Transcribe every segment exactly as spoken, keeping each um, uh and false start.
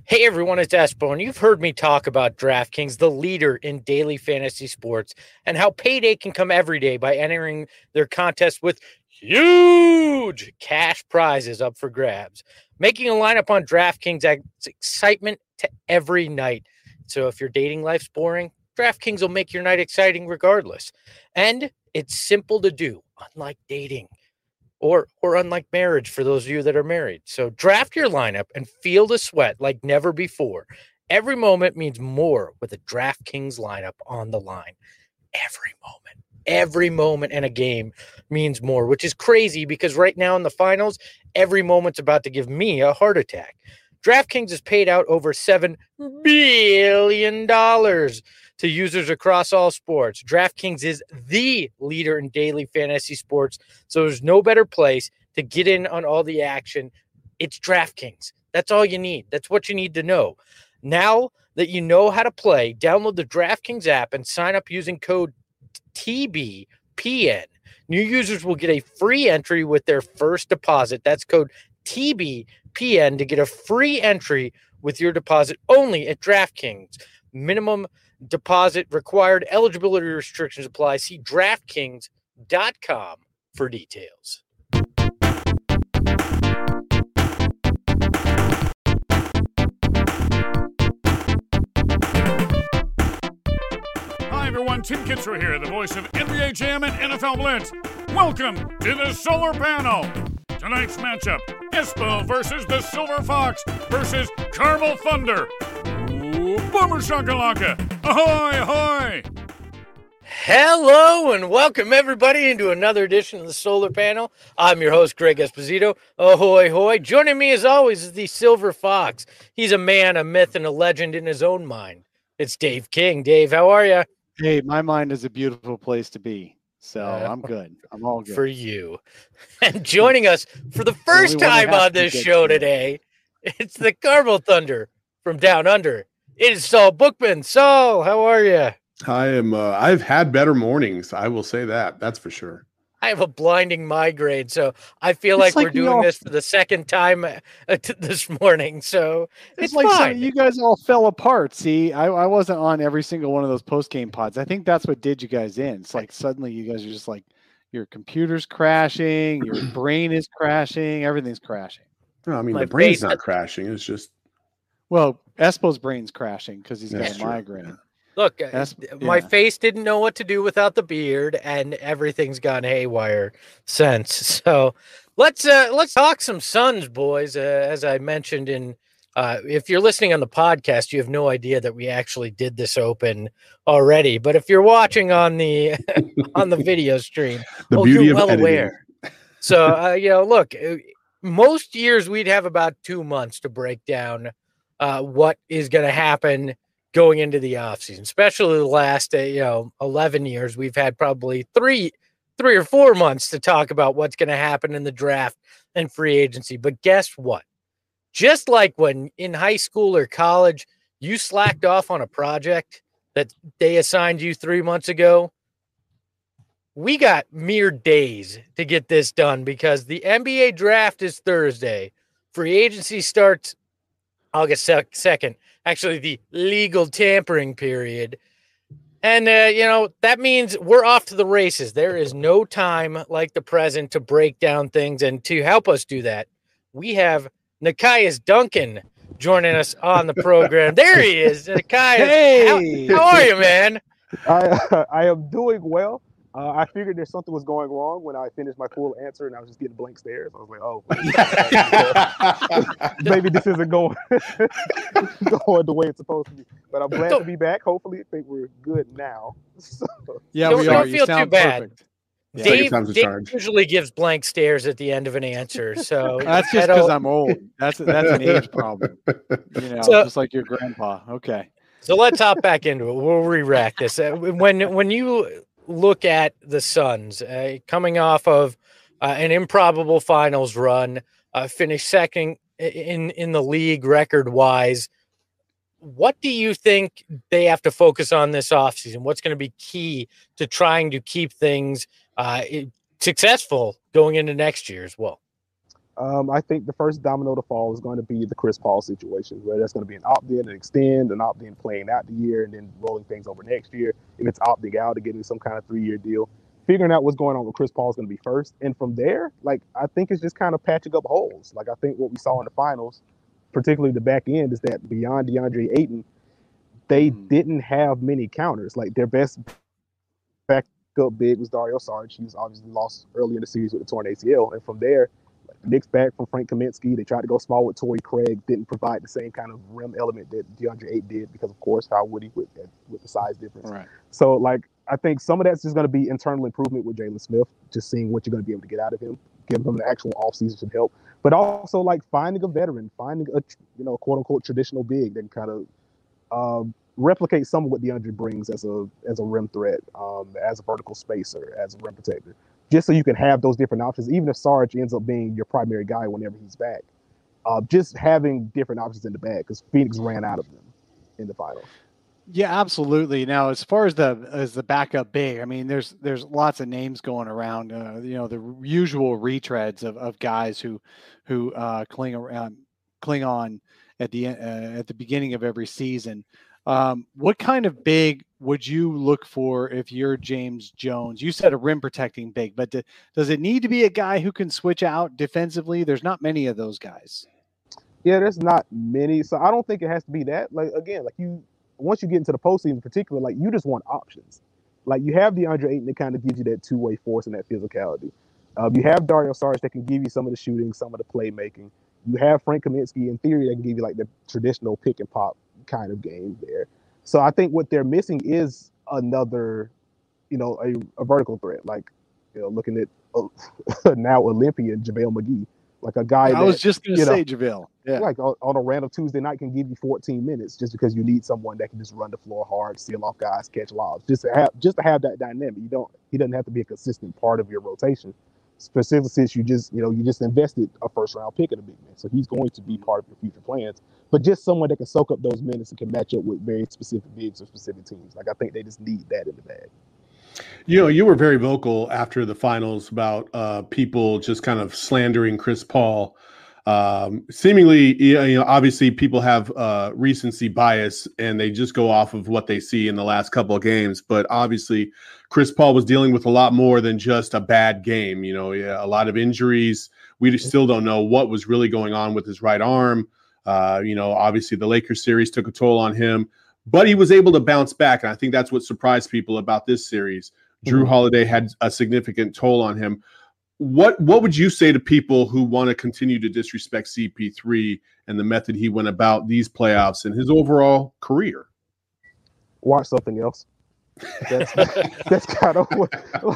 Hey everyone, it's Espo, and you've heard me talk about DraftKings, the leader in daily fantasy sports, and how payday can come every day by entering their contest with huge cash prizes up for grabs. Making a lineup on DraftKings adds excitement to every night. So if your dating life's boring, DraftKings will make your night exciting regardless. And it's simple to do, unlike dating. Or, or unlike marriage for those of you that are married. So draft your lineup and feel the sweat like never before. Every moment means more with a DraftKings lineup on the line. Every moment, every moment in a game means more, which is crazy because right now in the finals, every moment's about to give me a heart attack. DraftKings has paid out over seven billion dollars to users across all sports. DraftKings is the leader in daily fantasy sports, so there's no better place to get in on all the action. It's DraftKings. That's all you need. That's what you need to know. Now that you know how to play, download the DraftKings app and sign up using code T B P N. New users will get a free entry with their first deposit. That's code T B P N to get a free entry with your deposit only at DraftKings. Minimum deposit required. Eligibility restrictions apply. See DraftKings dot com for details. Hi, everyone. Tim Kitzrow here, the voice of N B A Jam and N F L Blitz. Welcome to the Solar Panel. Tonight's matchup, Espo versus the Silver Fox versus Carmel Thunder. Ooh, Boomer Shakalaka. Ahoy, ahoy. Hello and welcome everybody into another edition of the Solar Panel. I'm your host, Greg Esposito. Ahoy, hoy. Joining me as always is the Silver Fox. He's a man, a myth, and a legend in his own mind. It's Dave King. Dave, how are you? Hey, my mind is a beautiful place to be. So uh, I'm good. I'm all good. For you. And joining us for the first time on this show today, it's the Carmel Thunder from Down Under. It is Saul Bookman. Saul, how are you? I am. Uh, I've had better mornings. I will say that. That's for sure. I have a blinding migraine, so I feel like, like we're doing all... this for the second time uh, t- this morning. So it's, it's like fine. So you guys all fell apart. See, I, I wasn't on every single one of those post game pods. I think that's what did you guys in. It's like suddenly you guys are just like your computer's crashing, your brain is crashing, everything's crashing. No, I mean My the brain's face... not crashing. It's just well, Espo's brain's crashing because he's that's got a true. migraine. Yeah. Look, That's, my yeah. face didn't know what to do without the beard, and everything's gone haywire since. So let's uh, let's talk some Suns, boys. Uh, as I mentioned, in uh, if you're listening on the podcast, you have no idea that we actually did this open already. But if you're watching on the on the video stream, the oh, beauty you're of well editing. aware. So uh, you know, look, most years we'd have about two months to break down uh, what is going to happen going into the offseason, especially the last, uh, you know, eleven years, we've had probably three, three or four months to talk about what's going to happen in the draft and free agency. But guess what? Just like when in high school or college, you slacked off on a project that they assigned you three months ago, we got mere days to get this done because the N B A draft is Thursday. Free agency starts August second. Actually, the legal tampering period. And, uh, you know, that means we're off to the races. There is no time like the present to break down things. And to help us do that, we have Nekias Duncan joining us on the program. There he is. Nekias, hey! how, how are you, man? I, uh, I am doing well. Uh, I figured that something was going wrong when I finished my full answer and I was just getting blank stares. I was like, oh, maybe this isn't going, going the way it's supposed to be. But I'm glad don't, to be back. Hopefully, I think we're good now. So. Yeah, don't, we don't are. Feel You sound too bad. Perfect. Dave, Dave usually gives blank stares at the end of an answer. So that's just because I'm old. That's that's an age problem. You know, so, just like your grandpa. Okay. So let's hop back into it. We'll re-rack this. Uh, when when you look at the Suns uh, coming off of uh, an improbable finals run, uh, finished second in, in the league record wise. What do you think they have to focus on this offseason? What's going to be key to trying to keep things uh, successful going into next year as well? Um, I think the first domino to fall is going to be the Chris Paul situation, where there's going to be an opt-in and extend, an opt-in playing out the year, and then rolling things over next year. If it's opting out to getting some kind of three-year deal, figuring out what's going on with Chris Paul is going to be first. And from there, like, I think it's just kind of patching up holes. Like, I think what we saw in the finals, particularly the back end, is that beyond DeAndre Ayton, they mm. didn't have many counters. Like, their best backup big was Dario Saric. He was obviously lost early in the series with the torn A C L. And from there, Knicks back from Frank Kaminsky. They tried to go small with Torrey Craig. Didn't provide the same kind of rim element that DeAndre Ayton did because, of course, how would he with with the size difference? Right. So, like, I think some of that's just going to be internal improvement with Jalen Smith, just seeing what you're going to be able to get out of him, giving him the actual offseason should help. But also, like, finding a veteran, finding a, you know, quote unquote traditional big that can kind of uh, replicate some of what DeAndre brings as a as a rim threat, um, as a vertical spacer, as a rim protector. Just so you can have those different options, even if Sarge ends up being your primary guy whenever he's back. Uh, just having different options in the bag, because Phoenix ran out of them in the finals. Yeah, absolutely. Now, as far as the as the backup big, I mean, there's there's lots of names going around. Uh, you know, the usual retreads of, of guys who who uh, cling around, cling on at the uh, at the beginning of every season. Um, what kind of big would you look for if you're James Jones? You said a rim protecting big, but do, does it need to be a guy who can switch out defensively? There's not many of those guys. Yeah, there's not many. So I don't think it has to be that. Like, again, like you, once you get into the postseason in particular, like you just want options. Like you have DeAndre Ayton that kind of gives you that two-way force and that physicality. Um, you have Dario Saric that can give you some of the shooting, some of the playmaking. You have Frank Kaminsky in theory that can give you like the traditional pick and pop kind of game there. So I think what they're missing is another, you know, a, a vertical threat. Like, you know, looking at uh, now Olympian JaVale McGee, like a guy. I that, was just going to say know, JaVale. Yeah. Like on, on a random Tuesday night can give you fourteen minutes just because you need someone that can just run the floor hard, seal off guys, catch lobs. Just to have just to have that dynamic. You don't. He doesn't have to be a consistent part of your rotation. Specifically, since you just, you know, you just invested a first round pick in a big man, so he's going to be part of your future plans. But just someone that can soak up those minutes and can match up with very specific bigs or specific teams. Like I think they just need that in the bag. You know, you were very vocal after the finals about uh, people just kind of slandering Chris Paul. Um, seemingly, you know, obviously people have uh, recency bias and they just go off of what they see in the last couple of games. But obviously, Chris Paul was dealing with a lot more than just a bad game. You know, yeah, a lot of injuries. We still don't know what was really going on with his right arm. Uh, you know, obviously the Lakers series took a toll on him, but he was able to bounce back. And I think that's what surprised people about this series. Drew mm-hmm. Holiday had a significant toll on him. What what would you say to people who want to continue to disrespect C P three and the method he went about these playoffs and his overall career? Watch something else. That's, that's kind of what,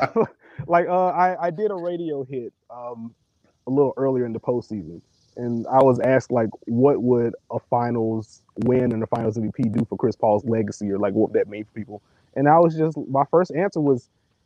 like uh, I, I did a radio hit um, a little earlier in the postseason, and I was asked like, what would a finals win and a finals M V P do for Chris Paul's legacy, or like what would that mean for people? And I was just, my first answer was,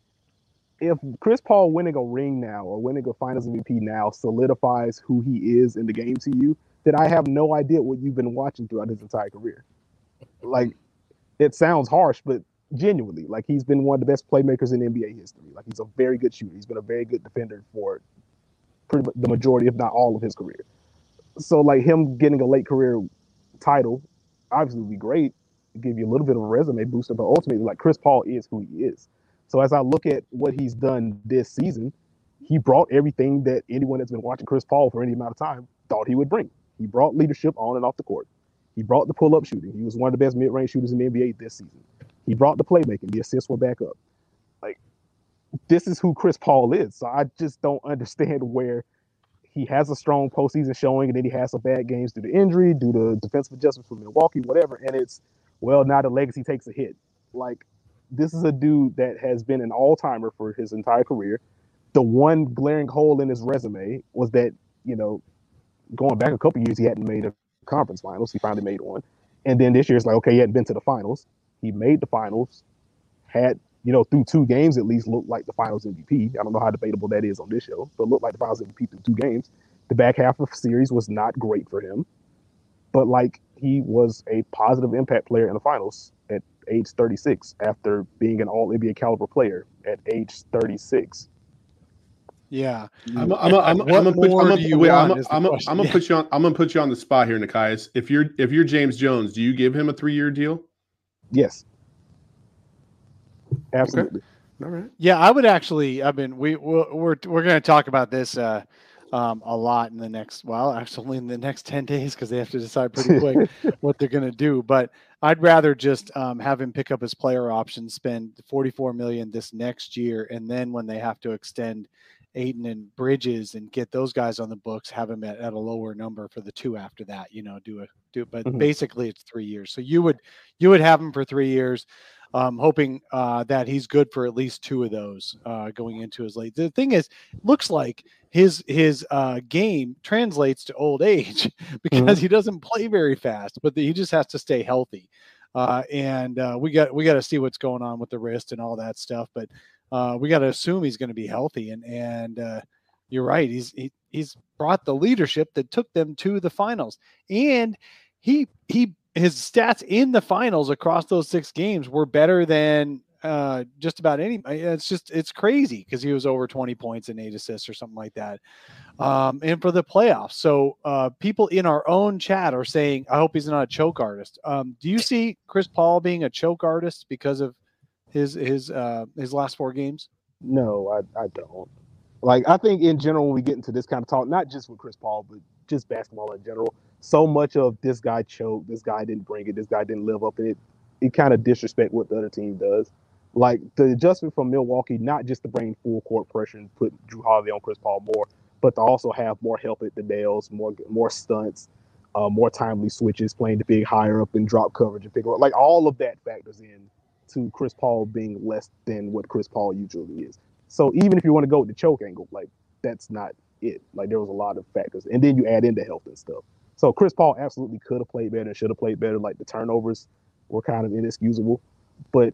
if Chris Paul winning a ring now or winning a finals M V P now solidifies who he is in the game to you, then I have no idea what you've been watching throughout his entire career. Like, it sounds harsh, but genuinely, like he's been one of the best playmakers in N B A history. Like he's a very good shooter. He's been a very good defender for pretty much the majority, if not all, of his career. So like him getting a late career title obviously would be great, give you a little bit of a resume booster, but ultimately like Chris Paul is who he is. So as I look at what he's done this season, he brought everything that anyone that's been watching Chris Paul for any amount of time thought he would bring. He brought leadership on and off the court. He brought the pull-up shooting. He was one of the best mid-range shooters in the N B A this season. He brought the playmaking. The assists were back up. Like, this is who Chris Paul is. So I just don't understand where he has a strong postseason showing and then he has some bad games due to injury, due to defensive adjustments from Milwaukee, whatever. And it's, well, now the legacy takes a hit. Like, this is a dude that has been an all-timer for his entire career. The one glaring hole in his resume was that, you know, going back a couple years, he hadn't made a conference finals. He finally made one. And then this year, it's like, okay, he hadn't been to the finals. He made the finals, had, you know, through two games at least, looked like the finals M V P. I don't know how debatable that is on this show, but looked like the finals M V P through two games. The back half of the series was not great for him, but like he was a positive impact player in the finals at age thirty-six after being an all N B A caliber player at age thirty-six. Yeah. I'm I'm I'm, I'm What gonna put more I'm do gonna, you wait, I'm want is the I'm I'm question. gonna Yeah. put you on I'm gonna put you on the spot here, Nikias. If you're if you're James Jones, do you give him a three year deal? Yes. Absolutely. All right. Yeah, I would actually. I mean, we we're we're, we're going to talk about this uh, um, a lot in the next. Well, actually, in the next ten days because they have to decide pretty quick what they're going to do. But I'd rather just um, have him pick up his player option, spend forty-four million this next year, and then when they have to extend Ayton and Bridges and get those guys on the books, have him at, at a lower number for the two after that. You know, do a do. But Mhm. basically, it's three years. So you would you would have him for three years. Um, hoping uh, that he's good for at least two of those uh, going into his late. The thing is, looks like his his uh, game translates to old age because Mhm. he doesn't play very fast, but the, he just has to stay healthy. Uh, and uh, we got we got to see what's going on with the wrist and all that stuff. But uh, we got to assume he's going to be healthy. And and uh, you're right, he's he, he's brought the leadership that took them to the finals, and he he. his stats in the finals across those six games were better than uh, just about any. It's just, it's crazy because he was over twenty points and eight assists or something like that. Um, and for the playoffs. So uh, people in our own chat are saying, I hope he's not a choke artist. Um, do you see Chris Paul being a choke artist because of his, his, uh, his last four games? No, I, I don't. Like, I think in general, when we get into this kind of talk, not just with Chris Paul, but just basketball in general, so much of this guy choked, this guy didn't bring it, this guy didn't live up to it, it kind of disrespect what the other team does. Like, the adjustment from Milwaukee, not just to bring full court pressure and put Drew Holiday on Chris Paul more, but to also have more help at the nails, more more stunts, uh, more timely switches, playing the big higher up and drop coverage and pick up. Like, all of that factors in to Chris Paul being less than what Chris Paul usually is. So even if you want to go with the choke angle, like, that's not it. Like, there was a lot of factors. And then you add in the health and stuff. So Chris Paul absolutely could have played better and should have played better. Like, the turnovers were kind of inexcusable. But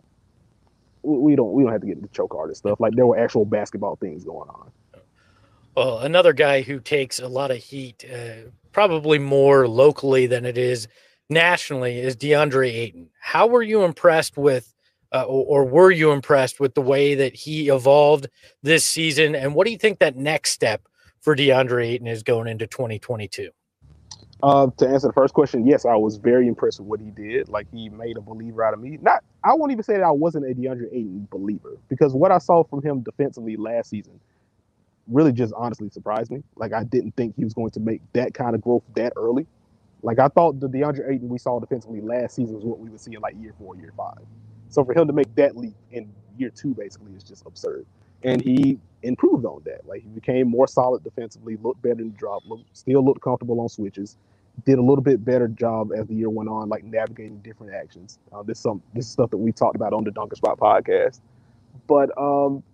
we don't we don't have to get into choke artist stuff. Like, there were actual basketball things going on. Well, another guy who takes a lot of heat, uh, probably more locally than it is nationally, is DeAndre Ayton. How were you impressed with Uh, or, or were you impressed with the way that he evolved this season? And what do you think that next step for DeAndre Ayton is going into twenty twenty-two? Uh, to answer the first question, yes, I was very impressed with what he did. Like, he made a believer out of me. Not, I won't even say that I wasn't a DeAndre Ayton believer, because what I saw from him defensively last season really just honestly surprised me. Like, I didn't think he was going to make that kind of growth that early. Like, I thought the DeAndre Ayton we saw defensively last season was what we would see in like year four, year five. So for him to make that leap in year two basically is just absurd. And he improved on that. Like, he became more solid defensively, looked better in the drop, looked, still looked comfortable on switches, did a little bit better job as the year went on, like navigating different actions. Uh, this some this is stuff that we talked about on the Dunker Spot podcast. But um,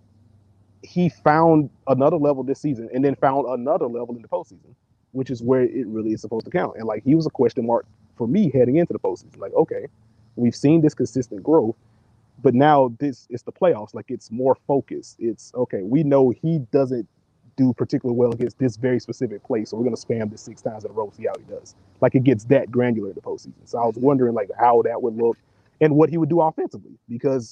he found another level this season, and then found another level in the postseason, which is where it really is supposed to count. And like, he was a question mark for me heading into the postseason. Like, okay, we've seen this consistent growth, but now this is the playoffs. Like, it's more focused. It's okay, we know he doesn't do particularly well against this very specific play, so we're going to spam this six times in a row, see how he does. Like, it gets that granular in the postseason. So I was wondering like how that would look and what he would do offensively, because,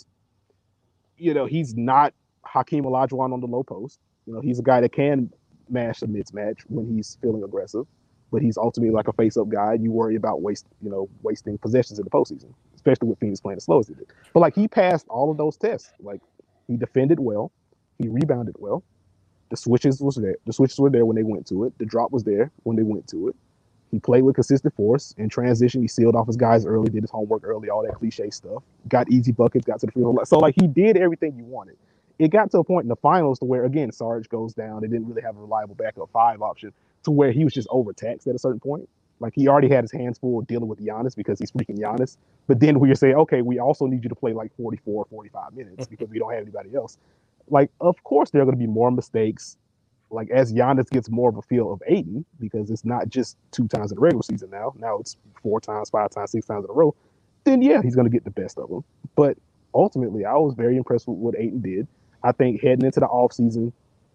you know, he's not Hakeem Olajuwon on the low post. You know, he's a guy that can mash a mismatch when he's feeling aggressive, but he's ultimately like a face-up guy. You worry about waste, you know, wasting possessions in the postseason, especially with Phoenix playing as slow as he did. But like, he passed all of those tests. Like, he defended well, he rebounded well. The switches was there. The switches were there when they went to it. The drop was there when they went to it. He played with consistent force. In transition, he sealed off his guys early, did his homework early, all that cliche stuff. Got easy buckets, got to the free throw line. So like, he did everything you wanted. It got to a point in the finals to where, again, Sarge goes down. They didn't really have a reliable backup five option, to where he was just overtaxed at a certain point. Like, he already had his hands full dealing with Giannis because he's freaking Giannis. But then we are saying, okay, we also need you to play like forty-four, forty-five minutes because we don't have anybody else. Like, of course, there are going to be more mistakes. Like, as Giannis gets more of a feel of Ayton, because it's not just two times in the regular season now. Now it's four times, five times, six times in a row. Then, yeah, he's going to get the best of them. But ultimately, I was very impressed with what Ayton did. I think heading into the offseason,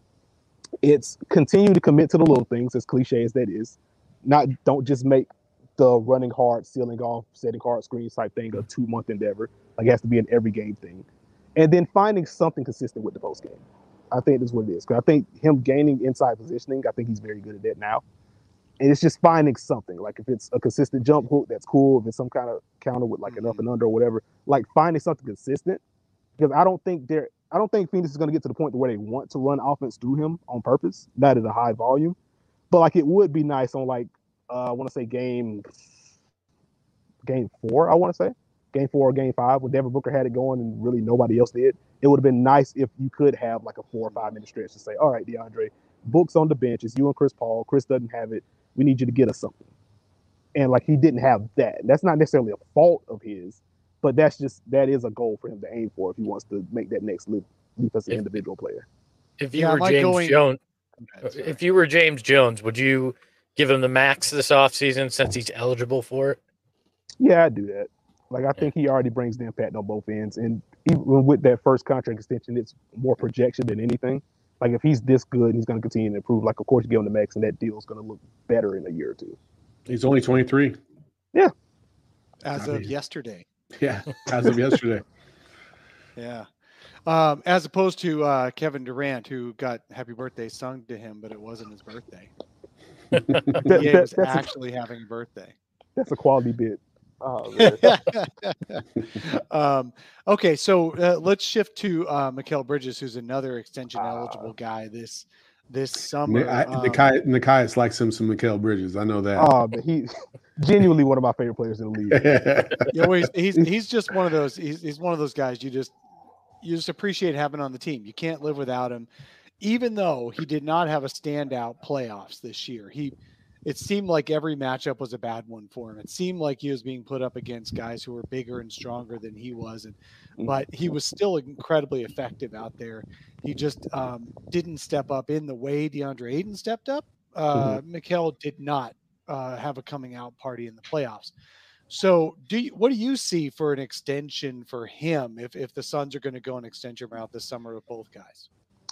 it's continue to commit to the little things, as cliche as that is. Not Don't just make the running hard, sealing off, setting hard screens type thing a two-month endeavor. Like, it has to be an every game thing. And then finding something consistent with the post game. I think that's what it is. Because I think him gaining inside positioning, I think he's very good at that now. And it's just finding something. Like if it's a consistent jump hook, that's cool. If it's some kind of counter with like mm-hmm. an up and under or whatever, like finding something consistent. Because I don't think they're, I don't think Phoenix is going to get to the point where they want to run offense through him on purpose, not at a high volume. But like it would be nice on like uh, I want to say game, game four. I want to say game four or game five when Devin Booker had it going and really nobody else did. It would have been nice if you could have like a four or five minute stretch to say, all right, DeAndre, Book's on the bench. It's you and Chris Paul. Chris doesn't have it. We need you to get us something. And like he didn't have that. That's not necessarily a fault of his, but that's just that is a goal for him to aim for if he wants to make that next leap, leap as an if, individual player. If you yeah, were James going... Jones, if you were James Jones, would you give him the max this offseason since he's eligible for it? Yeah, I'd do that. Like I think he already brings the impact on both ends, and even with that first contract extension, it's more projection than anything. Like if he's this good, he's going to continue to improve. Like of course you give him the max, and that deal is going to look better in a year or two. He's only twenty-three. Yeah, as I of mean, yesterday. Yeah, as of yesterday. Yeah, um, as opposed to uh, Kevin Durant, who got "Happy Birthday" sung to him, but it wasn't his birthday. that, he that, was actually a, having a birthday. That's a quality bit. Oh, um, okay, so uh, let's shift to uh, Mikal Bridges, who's another extension eligible uh, guy this this summer. I, um, Nikias, Nikias likes him some Mikal Bridges. I know that. Oh, but he genuinely one of my favorite players in the league. Yeah, well, he's, he's he's just one of those. He's he's one of those guys you just you just appreciate having on the team. You can't live without him, even though he did not have a standout playoffs this year. He. It seemed like every matchup was a bad one for him. It seemed like he was being put up against guys who were bigger and stronger than he was. And, but he was still incredibly effective out there. He just um, didn't step up in the way DeAndre Ayton stepped up. Uh, mm-hmm. Mikal did not uh, have a coming out party in the playoffs. So do you, what do you see for an extension for him if, if the Suns are going to go an extension route this summer with both guys?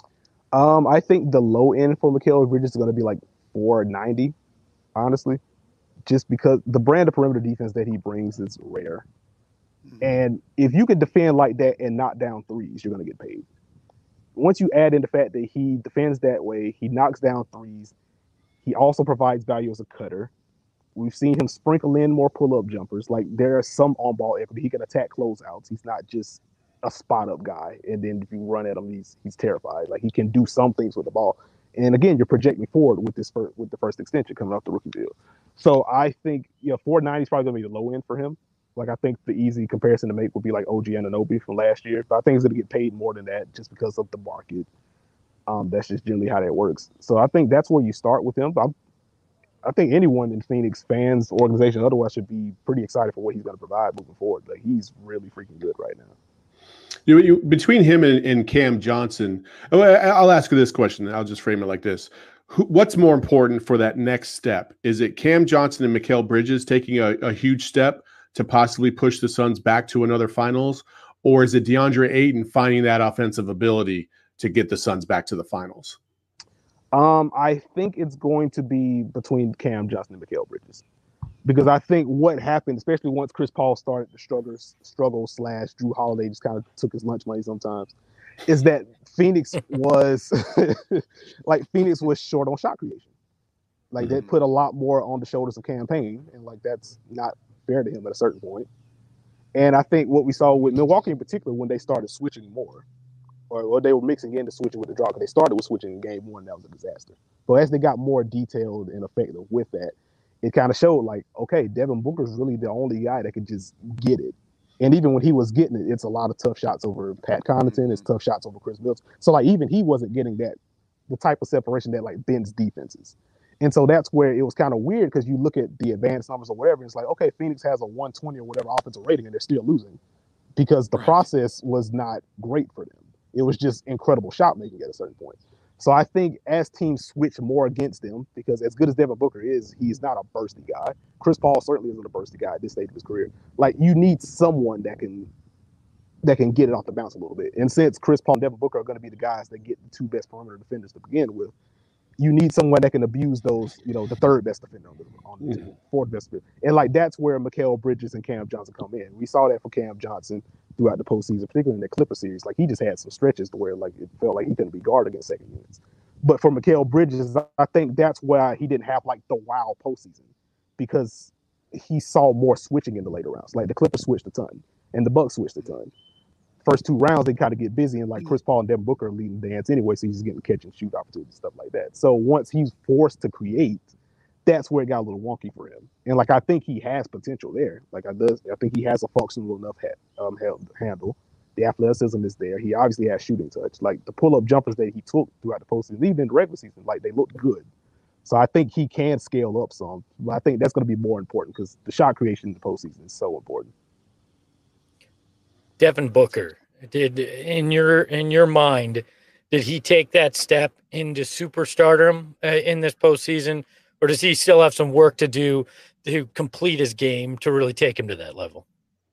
Um, I think the low end for Mikal Bridges is going to be like four ninety. Honestly, just because the brand of perimeter defense that he brings is rare. Mm-hmm. And if you can defend like that and knock down threes, you're going to get paid. Once you add in the fact that he defends that way, he knocks down threes, he also provides value as a cutter. We've seen him sprinkle in more pull-up jumpers. Like there are some on-ball equity. He can attack closeouts. He's not just a spot-up guy. And then if you run at him, he's he's terrified. Like he can do some things with the ball. And again, you're projecting forward with this first, with the first extension coming off the rookie deal. So I think, you know, four ninety is probably going to be the low end for him. Like I think the easy comparison to make would be like O G Anunoby from last year. But I think he's going to get paid more than that just because of the market. Um, that's just generally how that works. So I think that's where you start with him. But I'm, I think anyone in Phoenix, fans, organization, otherwise, should be pretty excited for what he's going to provide moving forward. Like he's really freaking good right now. You, you between him and, and Cam Johnson, I'll ask you this question. And I'll just frame it like this: Who, What's more important for that next step? Is it Cam Johnson and Mikal Bridges taking a, a huge step to possibly push the Suns back to another finals, or is it DeAndre Ayton finding that offensive ability to get the Suns back to the finals? Um, I think it's going to be between Cam Johnson and Mikal Bridges. Because I think what happened, especially once Chris Paul started to struggle, struggle slash Drew Holiday just kind of took his lunch money sometimes, is that Phoenix was like Phoenix was short on shot creation. Like mm-hmm. that put a lot more on the shoulders of Cam Payne, and like that's not fair to him at a certain point. And I think what we saw with Milwaukee in particular when they started switching more, or, or they were mixing into switching with the draw, because they started with switching in game one, that was a disaster. But as they got more detailed and effective with that, it kind of showed like, okay, Devin Booker is really the only guy that could just get it. And even when he was getting it, it's a lot of tough shots over Pat Connaughton. It's tough shots over Chris Middleton. So like even he wasn't getting that, the type of separation that like bends defenses. And so that's where it was kind of weird because you look at the advanced numbers or whatever, and it's like, okay, Phoenix has a one twenty or whatever offensive rating and they're still losing because the right. process was not great for them. It was just incredible shot making at a certain point. So I think as teams switch more against them, because as good as Devin Booker is, he's not a bursty guy. Chris Paul certainly isn't a bursty guy at this stage of his career. Like you need someone that can that can get it off the bounce a little bit. And since Chris Paul and Devin Booker are going to be the guys that get the two best perimeter defenders to begin with, you need someone that can abuse those, you know, the third best defender on the, on the team, fourth best defender. And like that's where Mikal Bridges and Cam Johnson come in. We saw that for Cam Johnson throughout the postseason, particularly in the Clipper series. Like he just had some stretches to where like it felt like he couldn't be guarded against second units. But for Mikal Bridges, I think that's why he didn't have like the wow postseason, because he saw more switching in the later rounds. Like the Clippers switched a ton, and the Bucks switched a ton. First two rounds, they kind of get busy, and like Chris Paul and Devin Booker are leading the dance anyway, so he's just getting catch and shoot opportunities, stuff like that. So once he's forced to create, that's where it got a little wonky for him. And like I think he has potential there. Like I does, I think he has a functional enough ha- um, handle. The athleticism is there. He obviously has shooting touch. Like the pull-up jumpers that he took throughout the postseason, even in the regular season, like they looked good. So I think he can scale up some. But I think that's going to be more important because the shot creation in the postseason is so important. Devin Booker, did in your in your mind, did he take that step into superstardom uh, in this postseason, or does he still have some work to do to complete his game to really take him to that level?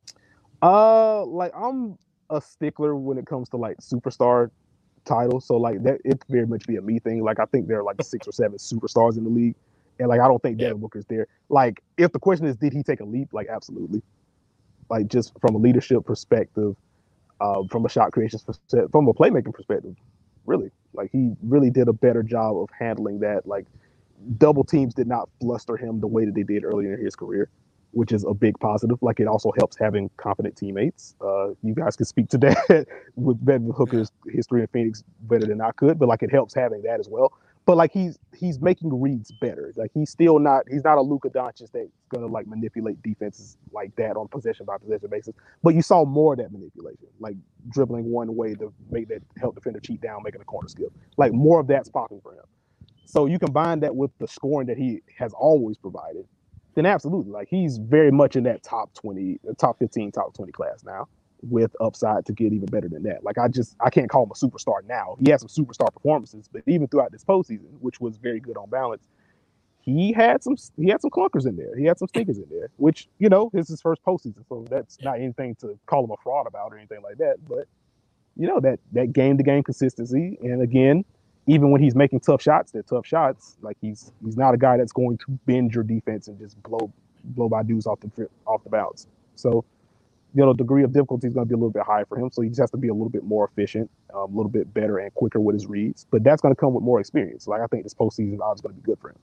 Uh, like I'm a stickler when it comes to like superstar titles, so like that it very much be a me thing. Like I think there are like six or seven superstars in the league, and like I don't think Devin yeah. Booker's there. Like if the question is, did he take a leap? Like absolutely. Like just from a leadership perspective, uh, from a shot creation perspective, from a playmaking perspective, really, like he really did a better job of handling that. Like double teams did not fluster him the way that they did earlier in his career, which is a big positive. Like it also helps having confident teammates. Uh, you guys can speak to that with Devin Booker's yeah. history in Phoenix better than I could, but like it helps having that as well. But like he's he's making reads better. Like he's still not he's not a Luka Doncic that's gonna like manipulate defenses like that on possession by possession basis. But you saw more of that manipulation, like dribbling one way to make that help defender cheat down, making a corner skip. Like more of that's popping for him. So you combine that with the scoring that he has always provided, then absolutely, like he's very much in that top twenty, top fifteen, top twenty class now, with upside to get even better than that. Like I just I can't call him a superstar now. He had some superstar performances, but even throughout this postseason, which was very good on balance, he had some he had some clunkers in there. He had some stinkers in there, which you know this is his first postseason, so that's not anything to call him a fraud about or anything like that. But you know that that game to game consistency, and again, even when he's making tough shots, they're tough shots. Like he's he's not a guy that's going to bend your defense and just blow blow by dudes off the off the bounce. So. You know, degree of difficulty is going to be a little bit higher for him, so he just has to be a little bit more efficient, um, a little bit better and quicker with his reads. But that's going to come with more experience. Like I think this postseason odds is going to be good for him.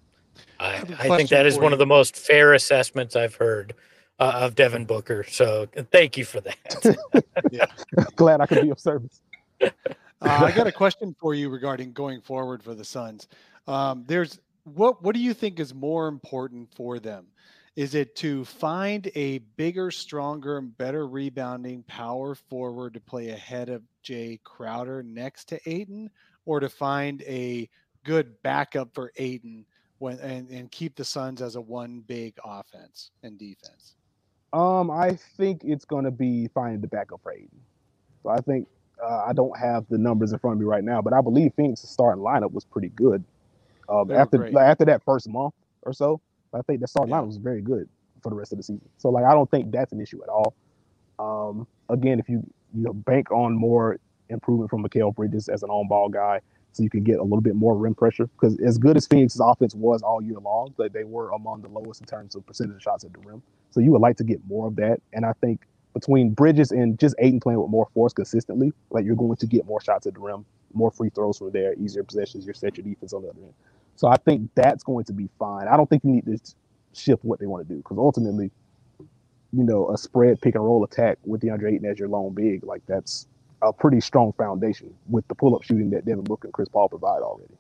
I, I think that is one you. of the most fair assessments I've heard uh, of Devin Booker. So thank you for that. yeah, glad I could be of service. uh, I got a question for you regarding going forward for the Suns. Um, there's what what do you think is more important for them? Is it to find a bigger, stronger, and better rebounding power forward to play ahead of Jay Crowder next to Ayton, or to find a good backup for Ayton when and, and keep the Suns as a one big offense and defense? Um, I think it's going to be finding the backup for Ayton. So I think uh, I don't have the numbers in front of me right now, but I believe Phoenix's starting lineup was pretty good. Um, after like, after that first month or so. I think the starting lineup was very good for the rest of the season. So, like, I don't think that's an issue at all. Um, again, if you you know bank on more improvement from Mikal Bridges as an on-ball guy, so you can get a little bit more rim pressure, because as good as Phoenix's offense was all year long, like they were among the lowest in terms of percentage of shots at the rim. So you would like to get more of that. And I think between Bridges and just Ayton playing with more force consistently, like you're going to get more shots at the rim, more free throws from there, easier possessions, you set your defense on the other end. So I think that's going to be fine. I don't think you need to shift what they want to do, because ultimately, you know, a spread pick and roll attack with DeAndre Ayton as your lone big, like that's a pretty strong foundation with the pull-up shooting that Devin Booker and Chris Paul provide already.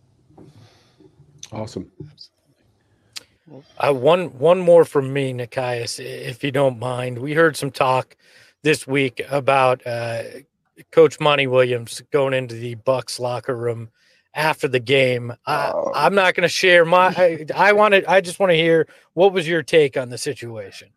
Awesome. Uh, one one more from me, Nekias, if you don't mind. We heard some talk this week about uh, Coach Monty Williams going into the Bucks locker room after the game. I, Oh. I'm not going to share my. I, I wanted. I just want to hear what was your take on the situation.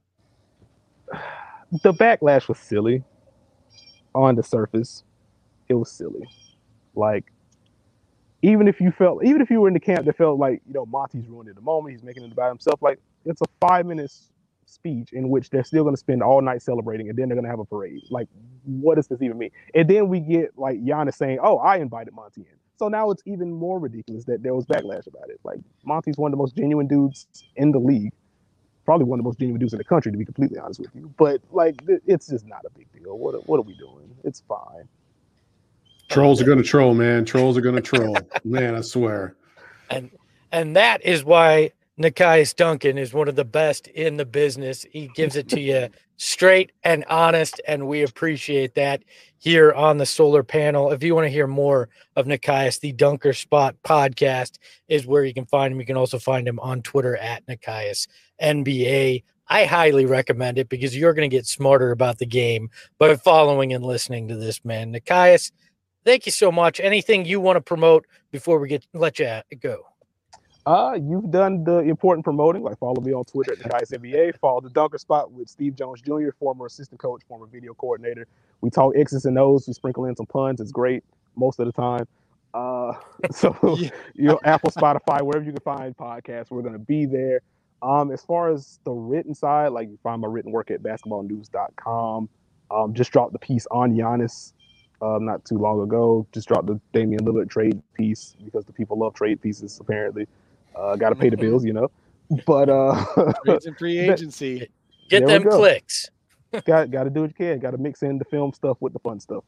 The backlash was silly. On the surface, it was silly. Like, even if you felt, even if you were in the camp that felt like, you know, Monty's ruining the moment, he's making it about himself. Like, it's a five minutes speech in which they're still going to spend all night celebrating, and then they're going to have a parade. Like, what does this even mean? And then we get like Giannis saying, "Oh, I invited Monty in." So now it's even more ridiculous that there was backlash about it. Like, Monty's one of the most genuine dudes in the league, probably one of the most genuine dudes in the country, to be completely honest with you. But like, it's just not a big deal. ago. What what are we doing? It's fine. Trolls are going to troll, man. Trolls are going to troll. Man, I swear. And and that is why Nekias Duncan is one of the best in the business. He gives it to you straight and honest, and we appreciate that here on the Solar Panel. If you want to hear more of Nekias, the Dunker Spot podcast is where you can find him. You can also find him on Twitter at Nekias N B A. I highly recommend it because you're going to get smarter about the game by following and listening to this man. Nekias, thank you so much. Anything you want to promote before we get let you go? Uh, you've done the important promoting. Like, follow me on Twitter at Nekias N B A. Follow the Dunker Spot with Steve Jones Junior, former assistant coach, former video coordinator. We talk X's and O's. We sprinkle in some puns. It's great most of the time. Uh, so yeah. You know, Apple, Spotify, wherever you can find podcasts, we're going to be there. Um, as far as the written side, like, you find my written work at basketball news dot com. Um, just dropped the piece on Giannis um, not too long ago. Just dropped the Damian Lillard trade piece because the people love trade pieces, apparently. Uh, got to pay the bills, you know. But uh, trades and free agency. Get them clicks. got got to do what you can. Got to mix in the film stuff with the fun stuff.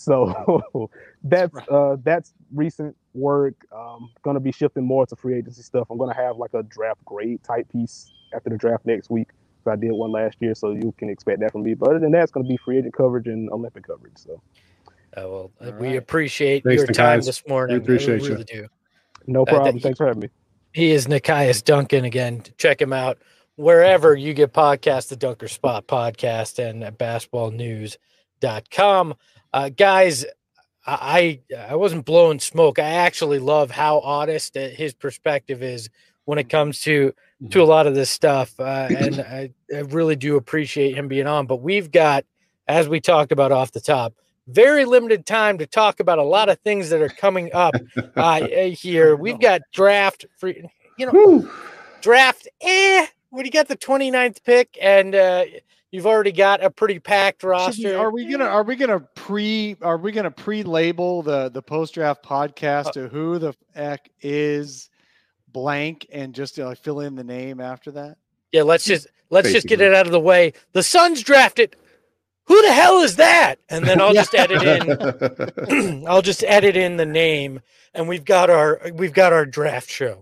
So that's uh, that's recent work. Um, going to be shifting more to free agency stuff. I'm going to have like a draft grade type piece after the draft next week. I did one last year, so you can expect that from me. But other than that, it's going to be free agent coverage and Olympic coverage. So, uh, well, All we right. appreciate Thanks, your Nekias. time this morning. We appreciate we really you. Do. No problem. Uh, Thanks for having me. He is Nekias Duncan. Again, check him out wherever you get podcasts, the Dunker Spot podcast and at basketball news dot com. Uh, guys, I I wasn't blowing smoke. I actually love how honest his perspective is when it comes to to a lot of this stuff, uh, and I, I really do appreciate him being on. But we've got, as we talked about off the top, very limited time to talk about a lot of things that are coming up uh, here. We've got draft free, you know, Woo. draft. Eh, when you got the twenty-ninth pick, and uh, you've already got a pretty packed roster. We, are we gonna are we gonna pre are we gonna pre-label the the post draft podcast uh, to who the heck is blank and just uh, fill in the name after that? Yeah, let's just let's Basically. just get it out of the way. The Suns drafted. Who the hell is that? And then I'll just edit in. I'll just edit in the name, and we've got our we've got our draft show.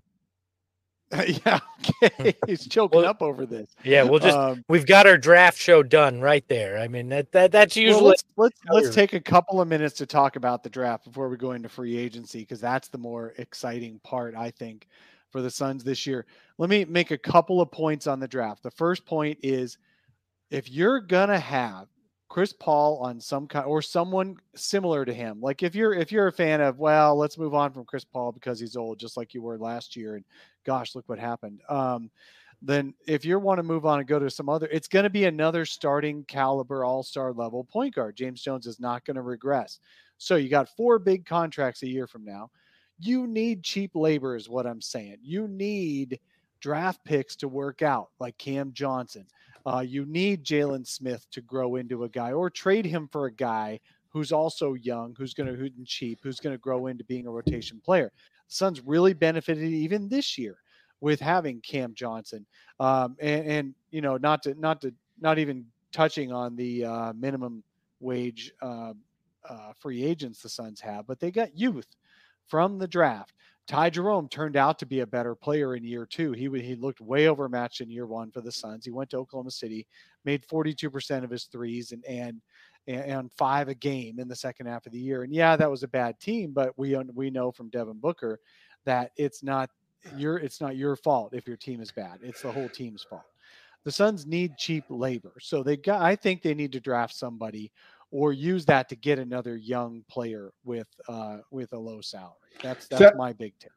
Uh, yeah, okay. He's choking well, up over this. Yeah, we'll just um, we've got our draft show done right there. I mean that that that's usually. Well, let's let's, let's take a couple of minutes to talk about the draft before we go into free agency, because that's the more exciting part, I think, for the Suns this year. Let me make a couple of points on the draft. The first point is, if you're gonna have Chris Paul on some kind or someone similar to him, like if you're if you're a fan of, well, let's move on from Chris Paul because he's old, just like you were last year, and gosh, look what happened. Um, then if you want to move on and go to some other, it's going to be another starting caliber all-star level point guard. James Jones is not going to regress. So you got four big contracts a year from now. You need cheap labor is what I'm saying. You need draft picks to work out, like Cam Johnson. Uh, you need Jalen Smith to grow into a guy, or trade him for a guy who's also young, who's going to who's cheap, who's going to grow into being a rotation player. The Suns really benefited even this year with having Cam Johnson, um, and, and you know, not to not to not even touching on the uh, minimum wage uh, uh, free agents the Suns have, but they got youth from the draft. Ty Jerome turned out to be a better player in year two. He he looked way overmatched in year one for the Suns. He went to Oklahoma City, made forty-two percent of his threes and and and five a game in the second half of the year. And yeah, that was a bad team, but we we know from Devin Booker that it's not your it's not your fault if your team is bad. It's the whole team's fault. The Suns need cheap labor, so they got. I think they need to draft somebody or use that to get another young player with uh, with a low salary. That's that's that, my big tip.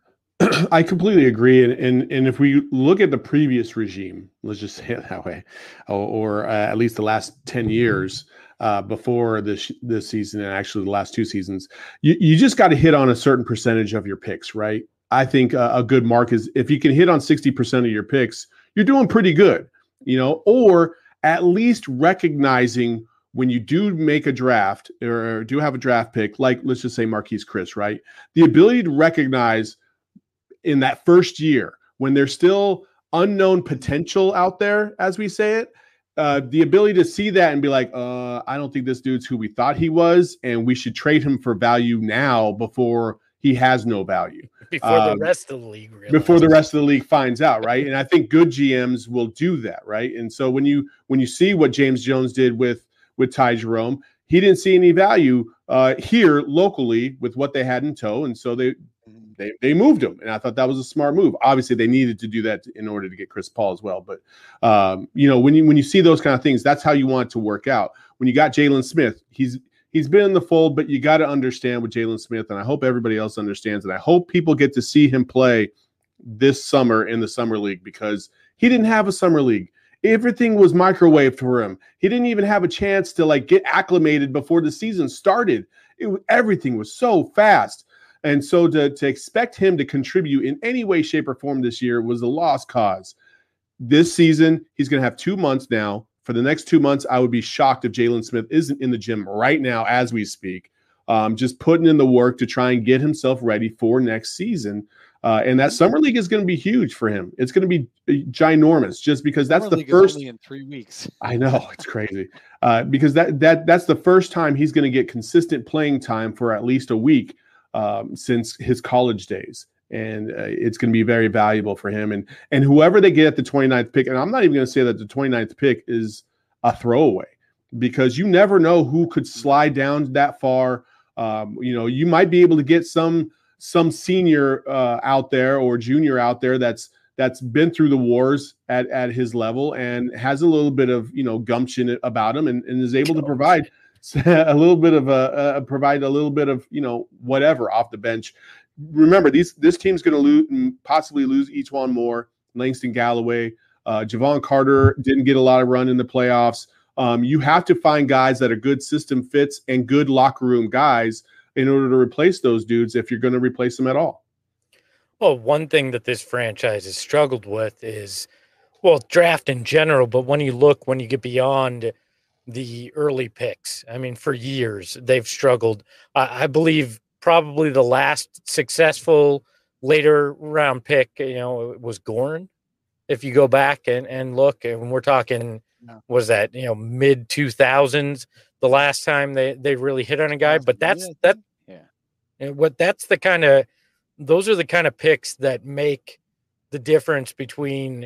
I completely agree. And, and and if we look at the previous regime, let's just say it that way, or, or uh, at least the last ten years uh, before this this season, and actually the last two seasons, you, you just got to hit on a certain percentage of your picks, right? I think a, a good mark is if you can hit on sixty percent of your picks, you're doing pretty good, you know, or at least recognizing when you do make a draft or do have a draft pick, like let's just say Marquise Chris, right? The ability to recognize in that first year when there's still unknown potential out there, as we say it, uh, the ability to see that and be like, uh, I don't think this dude's who we thought he was, and we should trade him for value now before he has no value. Before um, the rest of the league realizes. Before the rest of the league finds out, right? And I think good G Ms will do that, right? And so when you when you see what James Jones did with with Ty Jerome, he didn't see any value uh, here locally with what they had in tow, and so they they they moved him. And I thought that was a smart move. Obviously, they needed to do that in order to get Chris Paul as well. But um, you know, when you when you see those kind of things, that's how you want it to work out. When you got Jalen Smith, he's He's been in the fold, but you got to understand with Jalen Smith, and I hope everybody else understands, and I hope people get to see him play this summer in the summer league, because he didn't have a summer league. Everything was microwaved for him. He didn't even have a chance to like get acclimated before the season started. It, everything was so fast. And so to, to expect him to contribute in any way, shape, or form this year was a lost cause. This season, he's going to have two months now. For the next two months, I would be shocked if Jalen Smith isn't in the gym right now as we speak, um, just putting in the work to try and get himself ready for next season. Uh, and that summer league is going to be huge for him. It's going to be ginormous, just because that's summer the first only in three weeks. I know, it's crazy uh, because that that that's the first time he's going to get consistent playing time for at least a week um, since his college days. And uh, it's going to be very valuable for him. And and whoever they get at the twenty-ninth pick, and I'm not even going to say that the twenty-ninth pick is a throwaway, because you never know who could slide down that far. Um, you know, you might be able to get some some senior uh, out there or junior out there that's that's been through the wars at, at his level and has a little bit of, you know, gumption about him, and, and is able to provide a little bit of a, a provide a little bit of, you know, whatever off the bench. Remember, these this team's going to lose, possibly lose each one more. Langston Galloway, uh, Javon Carter didn't get a lot of run in the playoffs. Um, you have to find guys that are good system fits and good locker room guys in order to replace those dudes if you're going to replace them at all. Well, one thing that this franchise has struggled with is, well, draft in general, but when you look, when you get beyond the early picks, I mean, for years they've struggled. Uh, I believe probably the last successful later round pick, you know, was Goran. If you go back and, and look, and we're talking, no. was that, you know, mid two thousands, the last time they, they really hit on a guy, but that's, yeah. that, yeah. And what that's the kind of, those are the kind of picks that make the difference between